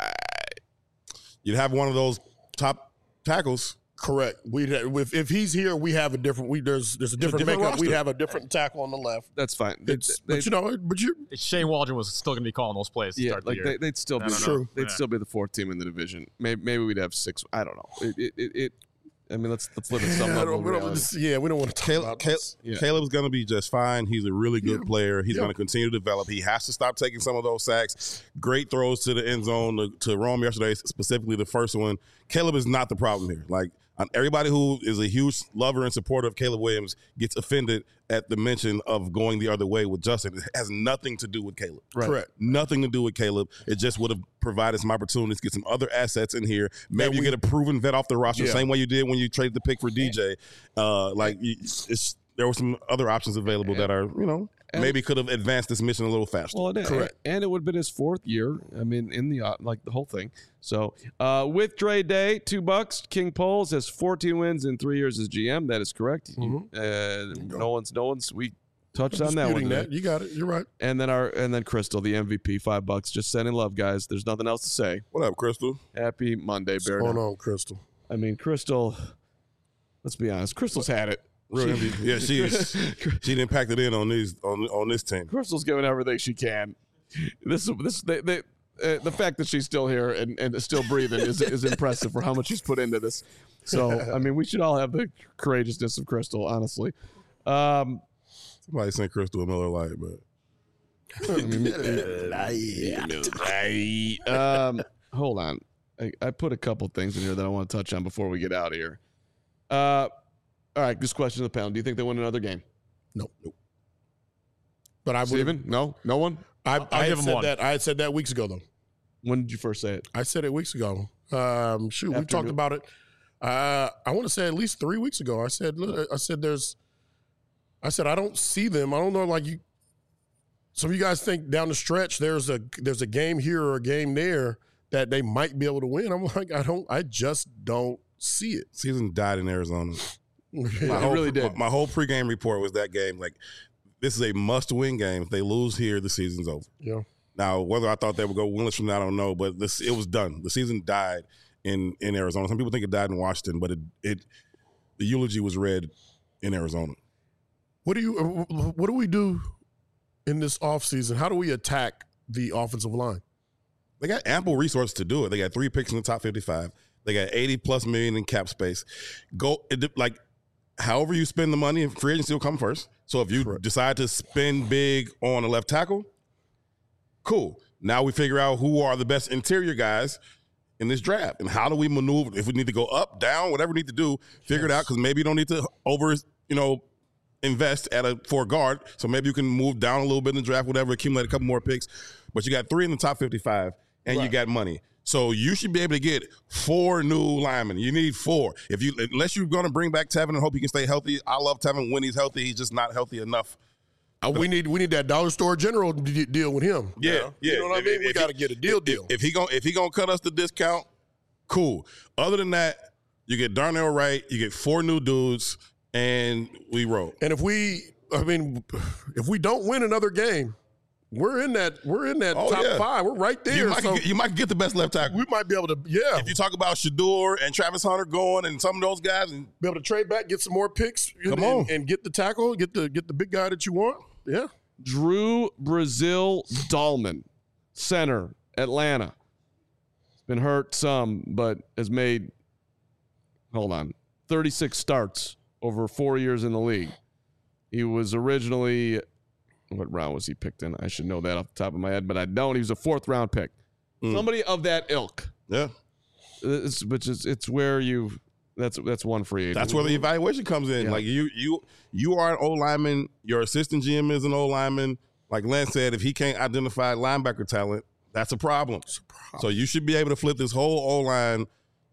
You'd have one of those top tackles. Correct. We if, if he's here, we have a different. We there's there's a different, different makeup. We roster. have a different tackle on the left. that's fine. They, It's, they- but you know, but you Shane Waldron was still going to be calling those plays to yeah, start like the they, year. they'd still be. I don't know. True. They'd Yeah. still be the fourth team in the division. Maybe, maybe we'd have six. I don't know. It, it, it, it I mean, let's let's live at some yeah, I level. don't, of we don't, reality. just- yeah, we don't want to talk Caleb, about Caleb, this. Yeah. Caleb's going to be just fine. He's a really good Yeah. player. He's Yeah. going to continue to develop. He has to stop taking some of those sacks. Great throws to the end zone to, to Rome yesterday, specifically the first one. Caleb is not the problem here. Like, um, everybody who is a huge lover and supporter of Caleb Williams gets offended at the mention of going the other way with Justin. It has nothing to do with Caleb. Right. Correct. Nothing to do with Caleb. It just would have provided some opportunities to get some other assets in here. Maybe That you we- get a proven vet off the roster, Yeah. same way you did when you traded the pick for D J. Uh, like, you- it's, there were some other options available that are, you know, And- maybe could have advanced this mission a little faster. Well, it, Correct. And it would have been his fourth year. I mean, in the uh, like the whole thing. So uh, with Dre Day, two bucks. King Poles has fourteen wins in three years as G M. That is correct. Mhm. Uh, no one's, no one's. We touched on that one. Disputing today. that. You got it. You're right. And then our and then Crystal, the M V P, five bucks. Just sending love, guys. There's nothing else to say. What up, Crystal? Happy Monday, What's Bear. going Down. on, Crystal? I mean, Crystal. Let's be honest. Crystal's had it. Real M V P. Yeah, she is. She didn't pack it in on these on on this team. Crystal's giving everything she can. This this they, they, uh, the fact that she's still here and, and still breathing is is impressive for how much she's put into this. So I mean, we should all have the courageousness of Crystal, honestly. Um, Somebody sent Crystal a Miller Lite, but um, hold on, I, I put a couple things in here that I want to touch on before we get out of here. Uh, all right, this question of the pound: do you think they win another game? Nope. Nope. But I would. Steven? No, no one. I, I'll I give had him said one. that. I had said that weeks ago, though. When did you first say it? I said it weeks ago. Um, shoot, we After talked New- about it. Uh, I want to say at least three weeks ago. I said, look, I said, there's. I said I don't see them. I don't know, like you. Some of you guys think down the stretch there's a there's a game here or a game there that they might be able to win. I'm like, I don't. I just don't see it. season died in Arizona. My It whole, really did. My, my whole pregame report was that game. Like, this is a must-win game. If they lose here, the season's over. Yeah. Now, whether I thought they would go winless from that, I don't know. But this, it was done. The season died in in Arizona. Some people think it died in Washington, but it it the eulogy was read in Arizona. What do you? What do we do in this offseason? How do we attack the offensive line? They got ample resources to do it. They got three picks in the top fifty-five. They got eighty plus million in cap space. Go it, like, however you spend the money, free agency will come first. So if you decide to spend big on a left tackle, cool. Now we figure out who are the best interior guys in this draft and how do we maneuver. If we need to go up, down, whatever we need to do, figure it out, because maybe you don't need to over, you know, invest at a for a guard. So maybe you can move down a little bit in the draft, whatever, accumulate a couple more picks. But you got three in the top fifty-five, and you got money. So you should be able to get four new linemen. You need four. If you unless you're going to bring back Tevin and hope he can stay healthy. I love Tevin when he's healthy. He's just not healthy enough. Uh, we need we need that dollar store general d- deal with him. Yeah, yeah. You know what If- I mean? We if got to he- get a deal If, deal. if he going if he gonna cut us the discount, cool. Other than that, you get Darnell Wright. You get four new dudes, and we roll. And if we, I mean, if we don't win another game, we're in that we're in that Oh, top yeah. five. We're right there. You might, so get, you might get the best left tackle. we might be able to, yeah, If you talk about Shador and Travis Hunter going and some of those guys, and be able to trade back, get some more picks, Come and, on. and get the tackle, get the get the big guy that you want. Yeah, Drew Brazil Dahlman, center, Atlanta. He's been hurt some, but has made, hold on, thirty-six starts over four years in the league. He was originally, what round was he picked in? I should know that off the top of my head, but I don't. He was a fourth round pick. Mm. Somebody of that ilk. yeah, It's, which is, it's where you, that's that's one free agent. that's where the evaluation comes in. Yeah. Like you, you, you are an O lineman. Your assistant G M is an O lineman. Like Lance said, if he can't identify linebacker talent, that's a problem. So you should be able to flip this whole O line.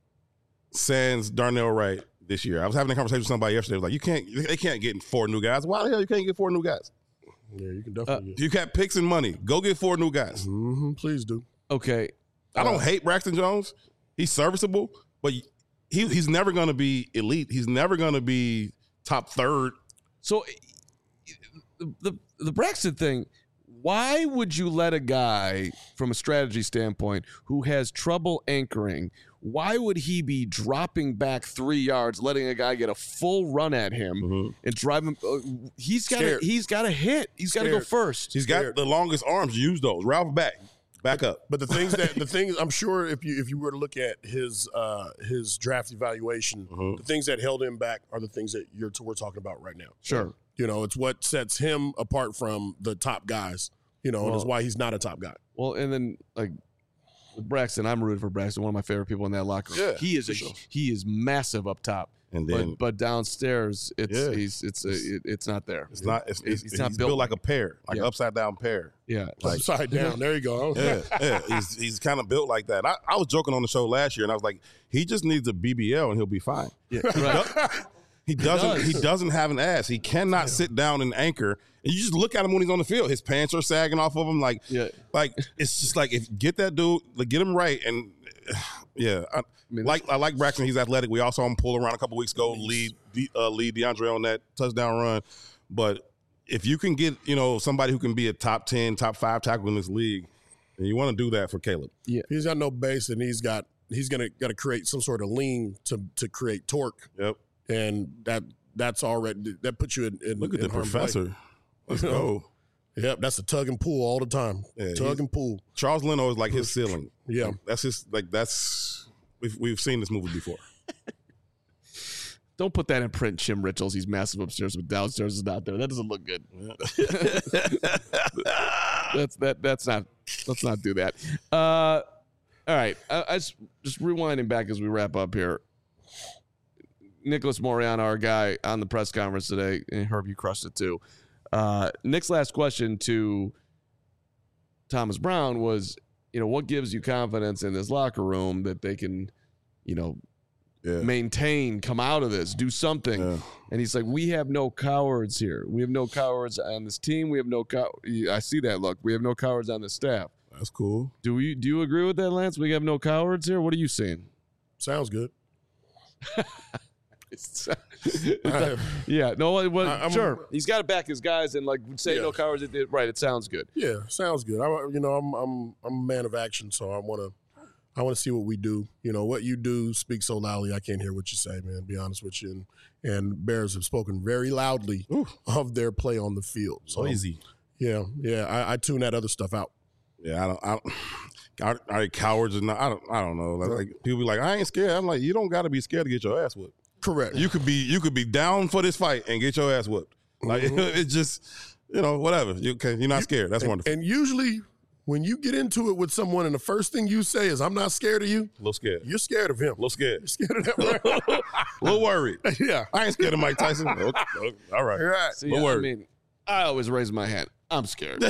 Sans Darnell Wright this year. I was having a conversation with somebody yesterday. Like, you can't, they can't get four new guys. Why the hell you can't get four new guys? yeah, you can Uh, definitely. get You got picks and money. Go get four new guys. hmm please do. Okay. I don't hate Braxton Jones. He's serviceable, but he he's never going to be elite. He's never going to be top third. So the, the the Braxton thing, why would you let a guy from a strategy standpoint who has trouble anchoring, why would he be dropping back three yards, letting a guy get a full run at him and drive him? Uh, he's got Scared. he's got to hit. He's got to go Scared. first. He's got Scared. the longest arms. Use those. Ralph back. Back up. But the things that the things I'm sure if you if you were to look at his uh, his draft evaluation, Mhm. the things that held him back are the things that you're we're talking about right now. Sure. You know, it's what sets him apart from the top guys. You know, and it's Well- why he's not a top guy. Well, and then like with Braxton, I'm rooting for Braxton, one of my favorite people in that locker room. Yeah, he is for a sure. he is massive up top, And then but but downstairs, it's Yeah. he's it's a, it, it's not there. it's not. It's, He's- it's, he's not he's built built like a pear, like Yeah. an upside down pear. Yeah, Like- Upside down. There you go. Yeah, yeah. He's he's kind of built like that. I, I was joking on the show last year, and I was like, he just needs a B B L and he'll be fine. yeah, right. He doesn't. does. He doesn't have an ass. He cannot yeah. sit down and anchor. And you just look at him when he's on the field. His pants are sagging off of him. Like, yeah. like it's just like if get that dude, like, get him right. And yeah, I, I mean, like I like Braxton. He's athletic. We also saw him pull around a couple weeks ago, lead uh, lead DeAndre on that touchdown run. But if you can get you know somebody who can be a top ten, top five tackle in this league, and you want to do that for Caleb. Yeah, he's got no base, and he's got he's gonna got to create some sort of lean to to create torque. Yep, and that that's already that puts you in. in Look at in the professor. Play. Let's go. Yep, that's a tug and pull all the time. Yeah, tug and pull. Charles Leno is like his ceiling. Yeah, like, that's his like that's we've we've seen this movie before. Don't put that in print, Jim Richards. He's massive upstairs, but downstairs is not there. That doesn't look good. Yeah. that's that. That's not. Let's not do that. Uh, all right. I, I just, just rewinding back as we wrap up here. Nicholas Moreano, our guy on the press conference today, and Herb, you crushed it too. Uh, Nick's last question to Thomas Brown was, you know, what gives you confidence in this locker room that they can, you know, yeah. maintain, come out of this, do something. Yeah. And he's like, we have no cowards here. We have no cowards on this team. We have no cow. I see that look. We have no cowards on the staff. That's cool. Do we? Do you agree with that, Lance? We have no cowards here. What are you saying? Sounds good. it's, it's, yeah. No. Well, I, sure. He's got to back his guys and like say yeah. no cowards. It, it, right. It sounds good. Yeah. Sounds good. I, you know, I'm I'm I'm a man of action, so I want to. I want to see what we do. You know, what you do speaks so loudly, I can't hear what you say, man, to be honest with you. And, and Bears have spoken very loudly Ooh. of their play on the field. So easy. Yeah, yeah. I, I tune that other stuff out. Yeah, I don't. I don't are, are they cowards or not? I don't. I don't know. Like, like people be like, I ain't scared. I'm like, you don't got to be scared to get your ass whipped. Correct. You could be. You could be down for this fight and get your ass whipped. Like mm-hmm. it's just, you know, whatever. You okay? You're not scared. That's and, wonderful. And usually, when you get into it with someone and the first thing you say is, I'm not scared of you. A little scared. You're scared of him. A little scared. You're scared of that. Right? A little worried. Yeah. I ain't scared of Mike Tyson. Okay. Okay. All right. All right. See, yeah, I mean, I always raise my hand. I'm scared.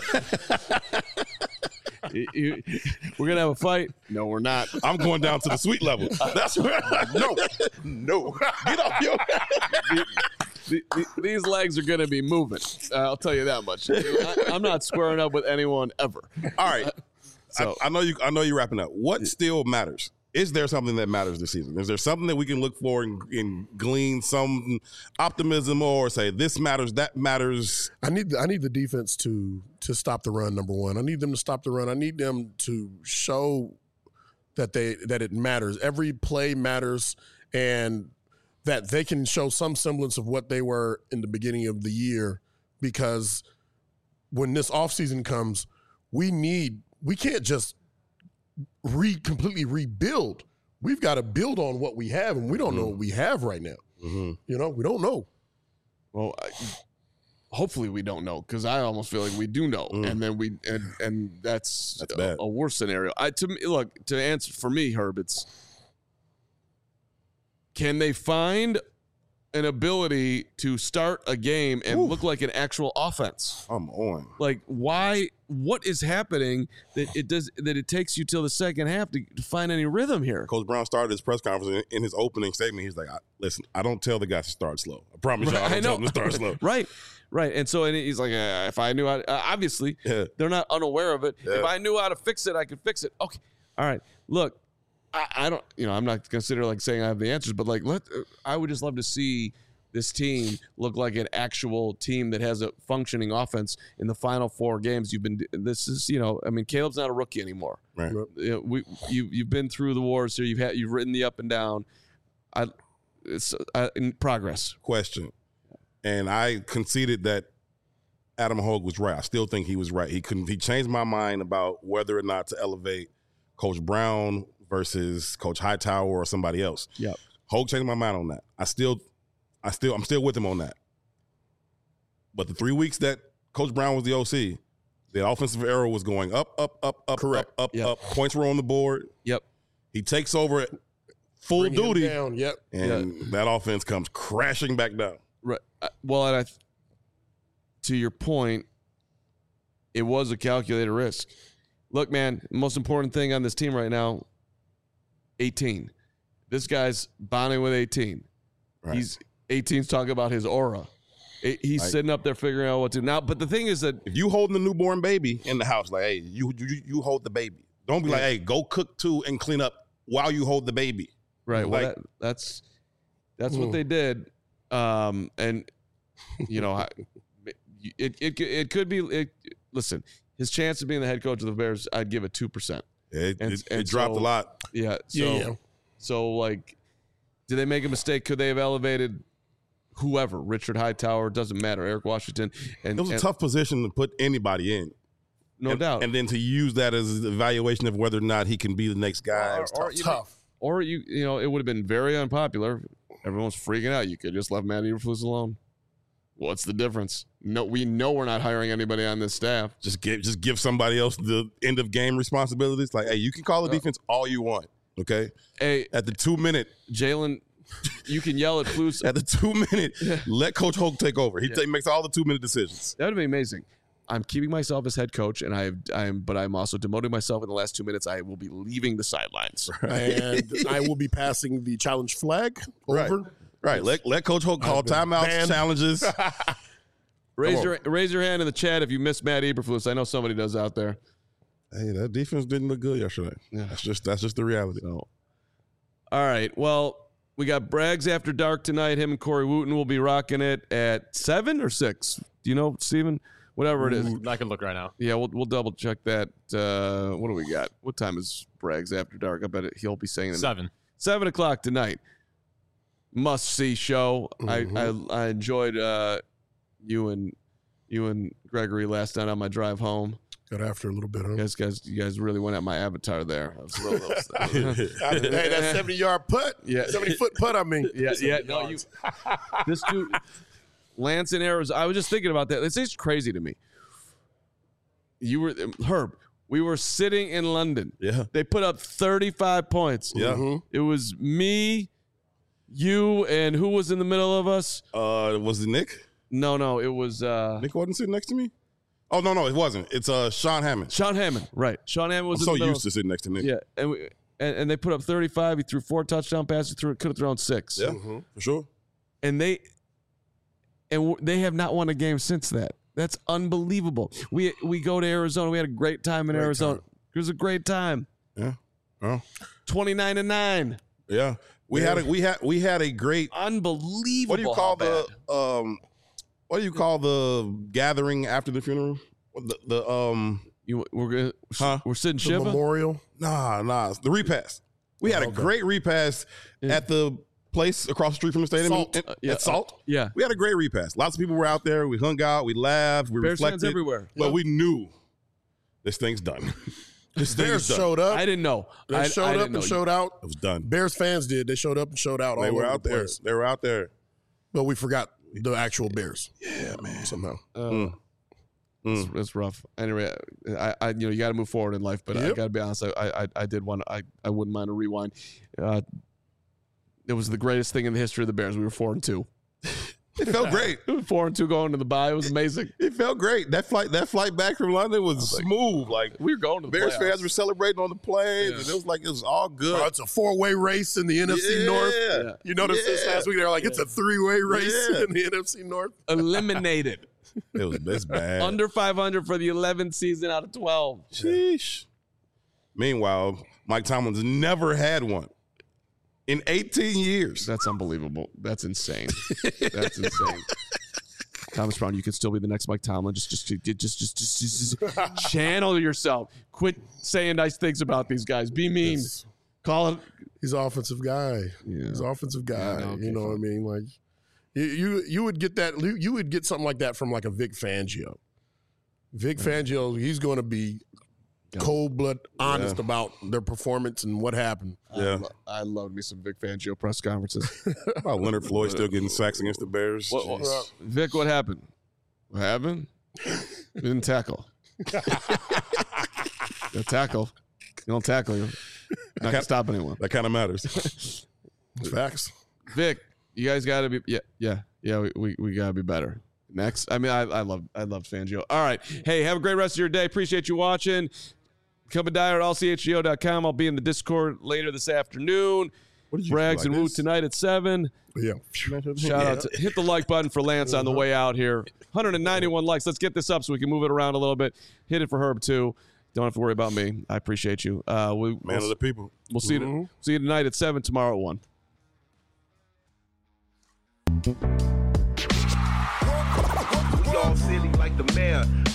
you, you, we're going to have a fight? No, we're not. I'm going down to the sweet level. That's right. No. No. Get off your the, the, the, These legs are going to be moving. Uh, I'll tell you that much. I, I'm not squaring up with anyone ever. All right. Uh, so, I, I know you. I know you're wrapping up. What still matters? Is there something that matters this season? Is there something that we can look for and, and glean some optimism or say this matters, that matters? I need the, I need the defense to to stop the run. Number one, I need them to stop the run. I need them to show that they that it matters. Every play matters, and that they can show some semblance of what they were in the beginning of the year. Because when this offseason comes, we need we can't just re completely rebuild. We've got to build on what we have, and we don't know what we have right now. Mm-hmm. You know, we don't know. Well, I, hopefully we don't know, because I almost feel like we do know, mm. and then we and and that's, that's a, bad. a worse scenario. I to me, look to answer for me, Herb. It's can they find an ability to start a game and Oof. look like an actual offense? I'm on. Like, why? What is happening that it does that it takes you till the second half to, to find any rhythm here? Coach Brown started his press conference in, in his opening statement. He's like, I, "Listen, I don't tell the guys to start slow. I promise right, you, I don't I tell them to start slow." Right, right. And so and he's like, uh, "If I knew how, to, uh, obviously yeah. they're not unaware of it. Yeah. If I knew how to fix it, I could fix it." Okay, all right. Look, I, I don't. You know, I'm not consider like saying I have the answers, but like, let uh, I would just love to see this team look like an actual team that has a functioning offense in the final four games. You've been, this is, you know, I mean, Caleb's not a rookie anymore. Right. You know, we, you, you've been through the wars here. You've had, you've written the up and down. I, it's uh, in progress. Question. And I conceded that Adam Hogue was right. I still think he was right. He couldn't, he changed my mind about whether or not to elevate Coach Brown versus Coach Hightower or somebody else. Yeah. Hogue changed my mind on that. I still, I still, I'm still with him on that. But the three weeks that Coach Brown was the O C, the offensive arrow was going up, up, up, up, Correct. up, up, Yep. up. Points were on the board. Yep. He takes over at full Bring him duty, down. Yep. and Yeah. that offense comes crashing back down. Right. Uh, Well, and I, th- to your point, it was a calculated risk. Look, man, the most important thing on this team right now, eighteen. This guy's bonding with eighteen. Right. He's eighteen's talking about his aura. He's Like, sitting up there figuring out what to do now. But the thing is that if you holding a newborn baby in the house, like, hey, you you, you hold the baby. Don't be like, hey, go cook too and clean up while you hold the baby. right, well, Like- that, that's that's what they did, um, and you know, I- it it it could be. It, listen, his chance of being the head coach of the Bears, I'd give it two percent. It, And- it, and it dropped so- a lot. Yeah, so Yeah, yeah. so like, did they make a mistake? Could they have elevated whoever, Richard Hightower? Doesn't matter, Eric Washington, and It was a and- tough position to put anybody in. no and, doubt. And then to use that as an evaluation of whether or not he can be the next guy. Or- was or tough. you- Tough. Or you, you know, it would have been very unpopular. Everyone's freaking out. You could just left Matt Eberflus alone. What's the difference? No, we know we're not hiring anybody on this staff. Just give just give somebody else the end of game responsibilities. Like, hey, you can call the Uh, defense all you want. Okay. Hey, At the two minute, Jalen, you can yell at Flus. at the two minute, let Coach Hoke take over. He ta- makes all the two minute decisions. That would be amazing. I'm keeping myself as head coach, and I, I'm, but I'm also demoting myself in the last two minutes. I will be leaving the sidelines. And I will be passing the challenge flag Right. over. Right. Let let Coach Hoke call I've been timeouts, banned. challenges. Raise Come your raise your hand in the chat if you missed Matt Eberflus. I know somebody does out there. Hey, that defense didn't look good yesterday. Yeah. That's just that's just the reality. So, all right. Well, we got Braggs After Dark tonight. Him and Corey Wooten will be rocking it at seven or six. Do you know, Steven? Whatever it is. I can look right now. Yeah, we'll we'll double check that. Uh, what do we got? What time is Braggs After Dark? I bet it, he'll be saying it. Seven. Seven o'clock tonight. Must see show. Mhm. I, I I enjoyed uh, you and you and Gregory last night on my drive home. Got after a little bit. Huh? You guys, guys, you guys really went at my avatar there. I was a little, little- hey, that seventy yard putt. Yeah. seventy foot putt. I mean. yeah, yeah. No, you. This dude, Lance in Arizona. I was just thinking about that. It's just crazy to me. You were Herb. We were sitting in London. Yeah. They put up thirty-five points. Yeah. Mhm. It was me, you, and who was in the middle of us? Uh, was it Nick? No, no, it was uh, Nick wasn't sitting next to me. Oh no, no, it wasn't. It's uh Sean Hammond. Sean Hammond. Right, Sean Hammond was I'm in so the middle. used to sitting next to Nick. Yeah, and, we, and and they put up thirty-five. He threw four touchdown passes. Threw could have thrown six. Yeah, Mhm. for sure. And they and w- they have not won a game since that. That's unbelievable. We we go to Arizona. We had a great time in Great Arizona. time. It was a great time. Yeah. Oh. twenty-nine to nine. Yeah. We Yeah. had a we had we had a great Unbelievable. what do you call how the bad. um what do you call the gathering after the funeral? The, the um You, we're gonna, Huh? we're sitting The Shiva. Oh, memorial. nah nah the repast. We had a Okay. great repast Yeah. at the place across the street from the stadium. Salt. At, Uh, yeah, at Salt. Yeah, We had a great repast. Lots of people were out there. We hung out. We laughed. We Bears fans reflected. everywhere. But we knew this thing's done. this thing Bears is done. showed up. I didn't know. They I, showed I up didn't and know. showed out. It was done. Bears fans did. They showed up and showed out. They all were over out the there. place. They were out there. But we forgot the actual Bears. Yeah, man. Somehow. Uh, Mm. It's, Mm. it's rough. Anyway, I, I, you know, you got to move forward in life. But I Yep. got to be honest. I, I, I did want. I, I wouldn't mind a rewind. Uh, it was the greatest thing in the history of the Bears. We were four and two. It felt great. Four and two going to the bye. It was amazing. It felt great. That flight, that flight back from London was smooth. Like We were going to the Bears playoffs. fans were celebrating on the plane, Yeah. and it was like it was all good. Oh, it's a four way race in the N F C Yeah. North. Yeah. You noticed this Yeah. last week? They're like, it's a three way race Yeah. in the N F C North. Eliminated. It was it's bad. Under five hundred for the eleventh season out of twelve. Sheesh. Meanwhile, Mike Tomlin's never had one in eighteen years. That's unbelievable. That's insane. That's insane. Thomas Brown, you could still be the next Mike Tomlin. Just, just, just, just, just, just, just channel yourself. Quit saying nice things about these guys. Be mean. Yes. Call it. He's an offensive guy. Yeah. He's an offensive guy. Yeah, okay, you know what I mean? Like, you, you you would get that. You would get something like that from like a Vic Fangio. Vic Fangio, he's going to be cold blood honest Yeah. about their performance and what happened. Yeah. I love me some Vic Fangio press conferences. About Leonard Floyd still getting sacks against the Bears. What- what- Jeez. Vic, what happened? What happened? Didn't tackle. You tackle. You don't tackle. You're not gonna stop anyone. That kind of matters. Facts. Vic, you guys got to be. Yeah, yeah, yeah. We, we, we got to be better. Next, I mean, I I love I love Fangio. All right, hey, have a great rest of your day. Appreciate you watching. Become a dyer at all c h g o dot com. I'll be in the Discord later this afternoon. What did you Braggs like and Woot this? tonight at seven. Yeah. Shout out to hit the like button for Lance on the way out here. one hundred ninety-one likes. Let's get this up so we can move it around a little bit. Hit it for Herb too. Don't have to worry about me. I appreciate you. Uh, we, Man we'll, of the people. we'll see Mm-hmm. you. See you tonight at seven. Tomorrow at one. We all silly like the mayor.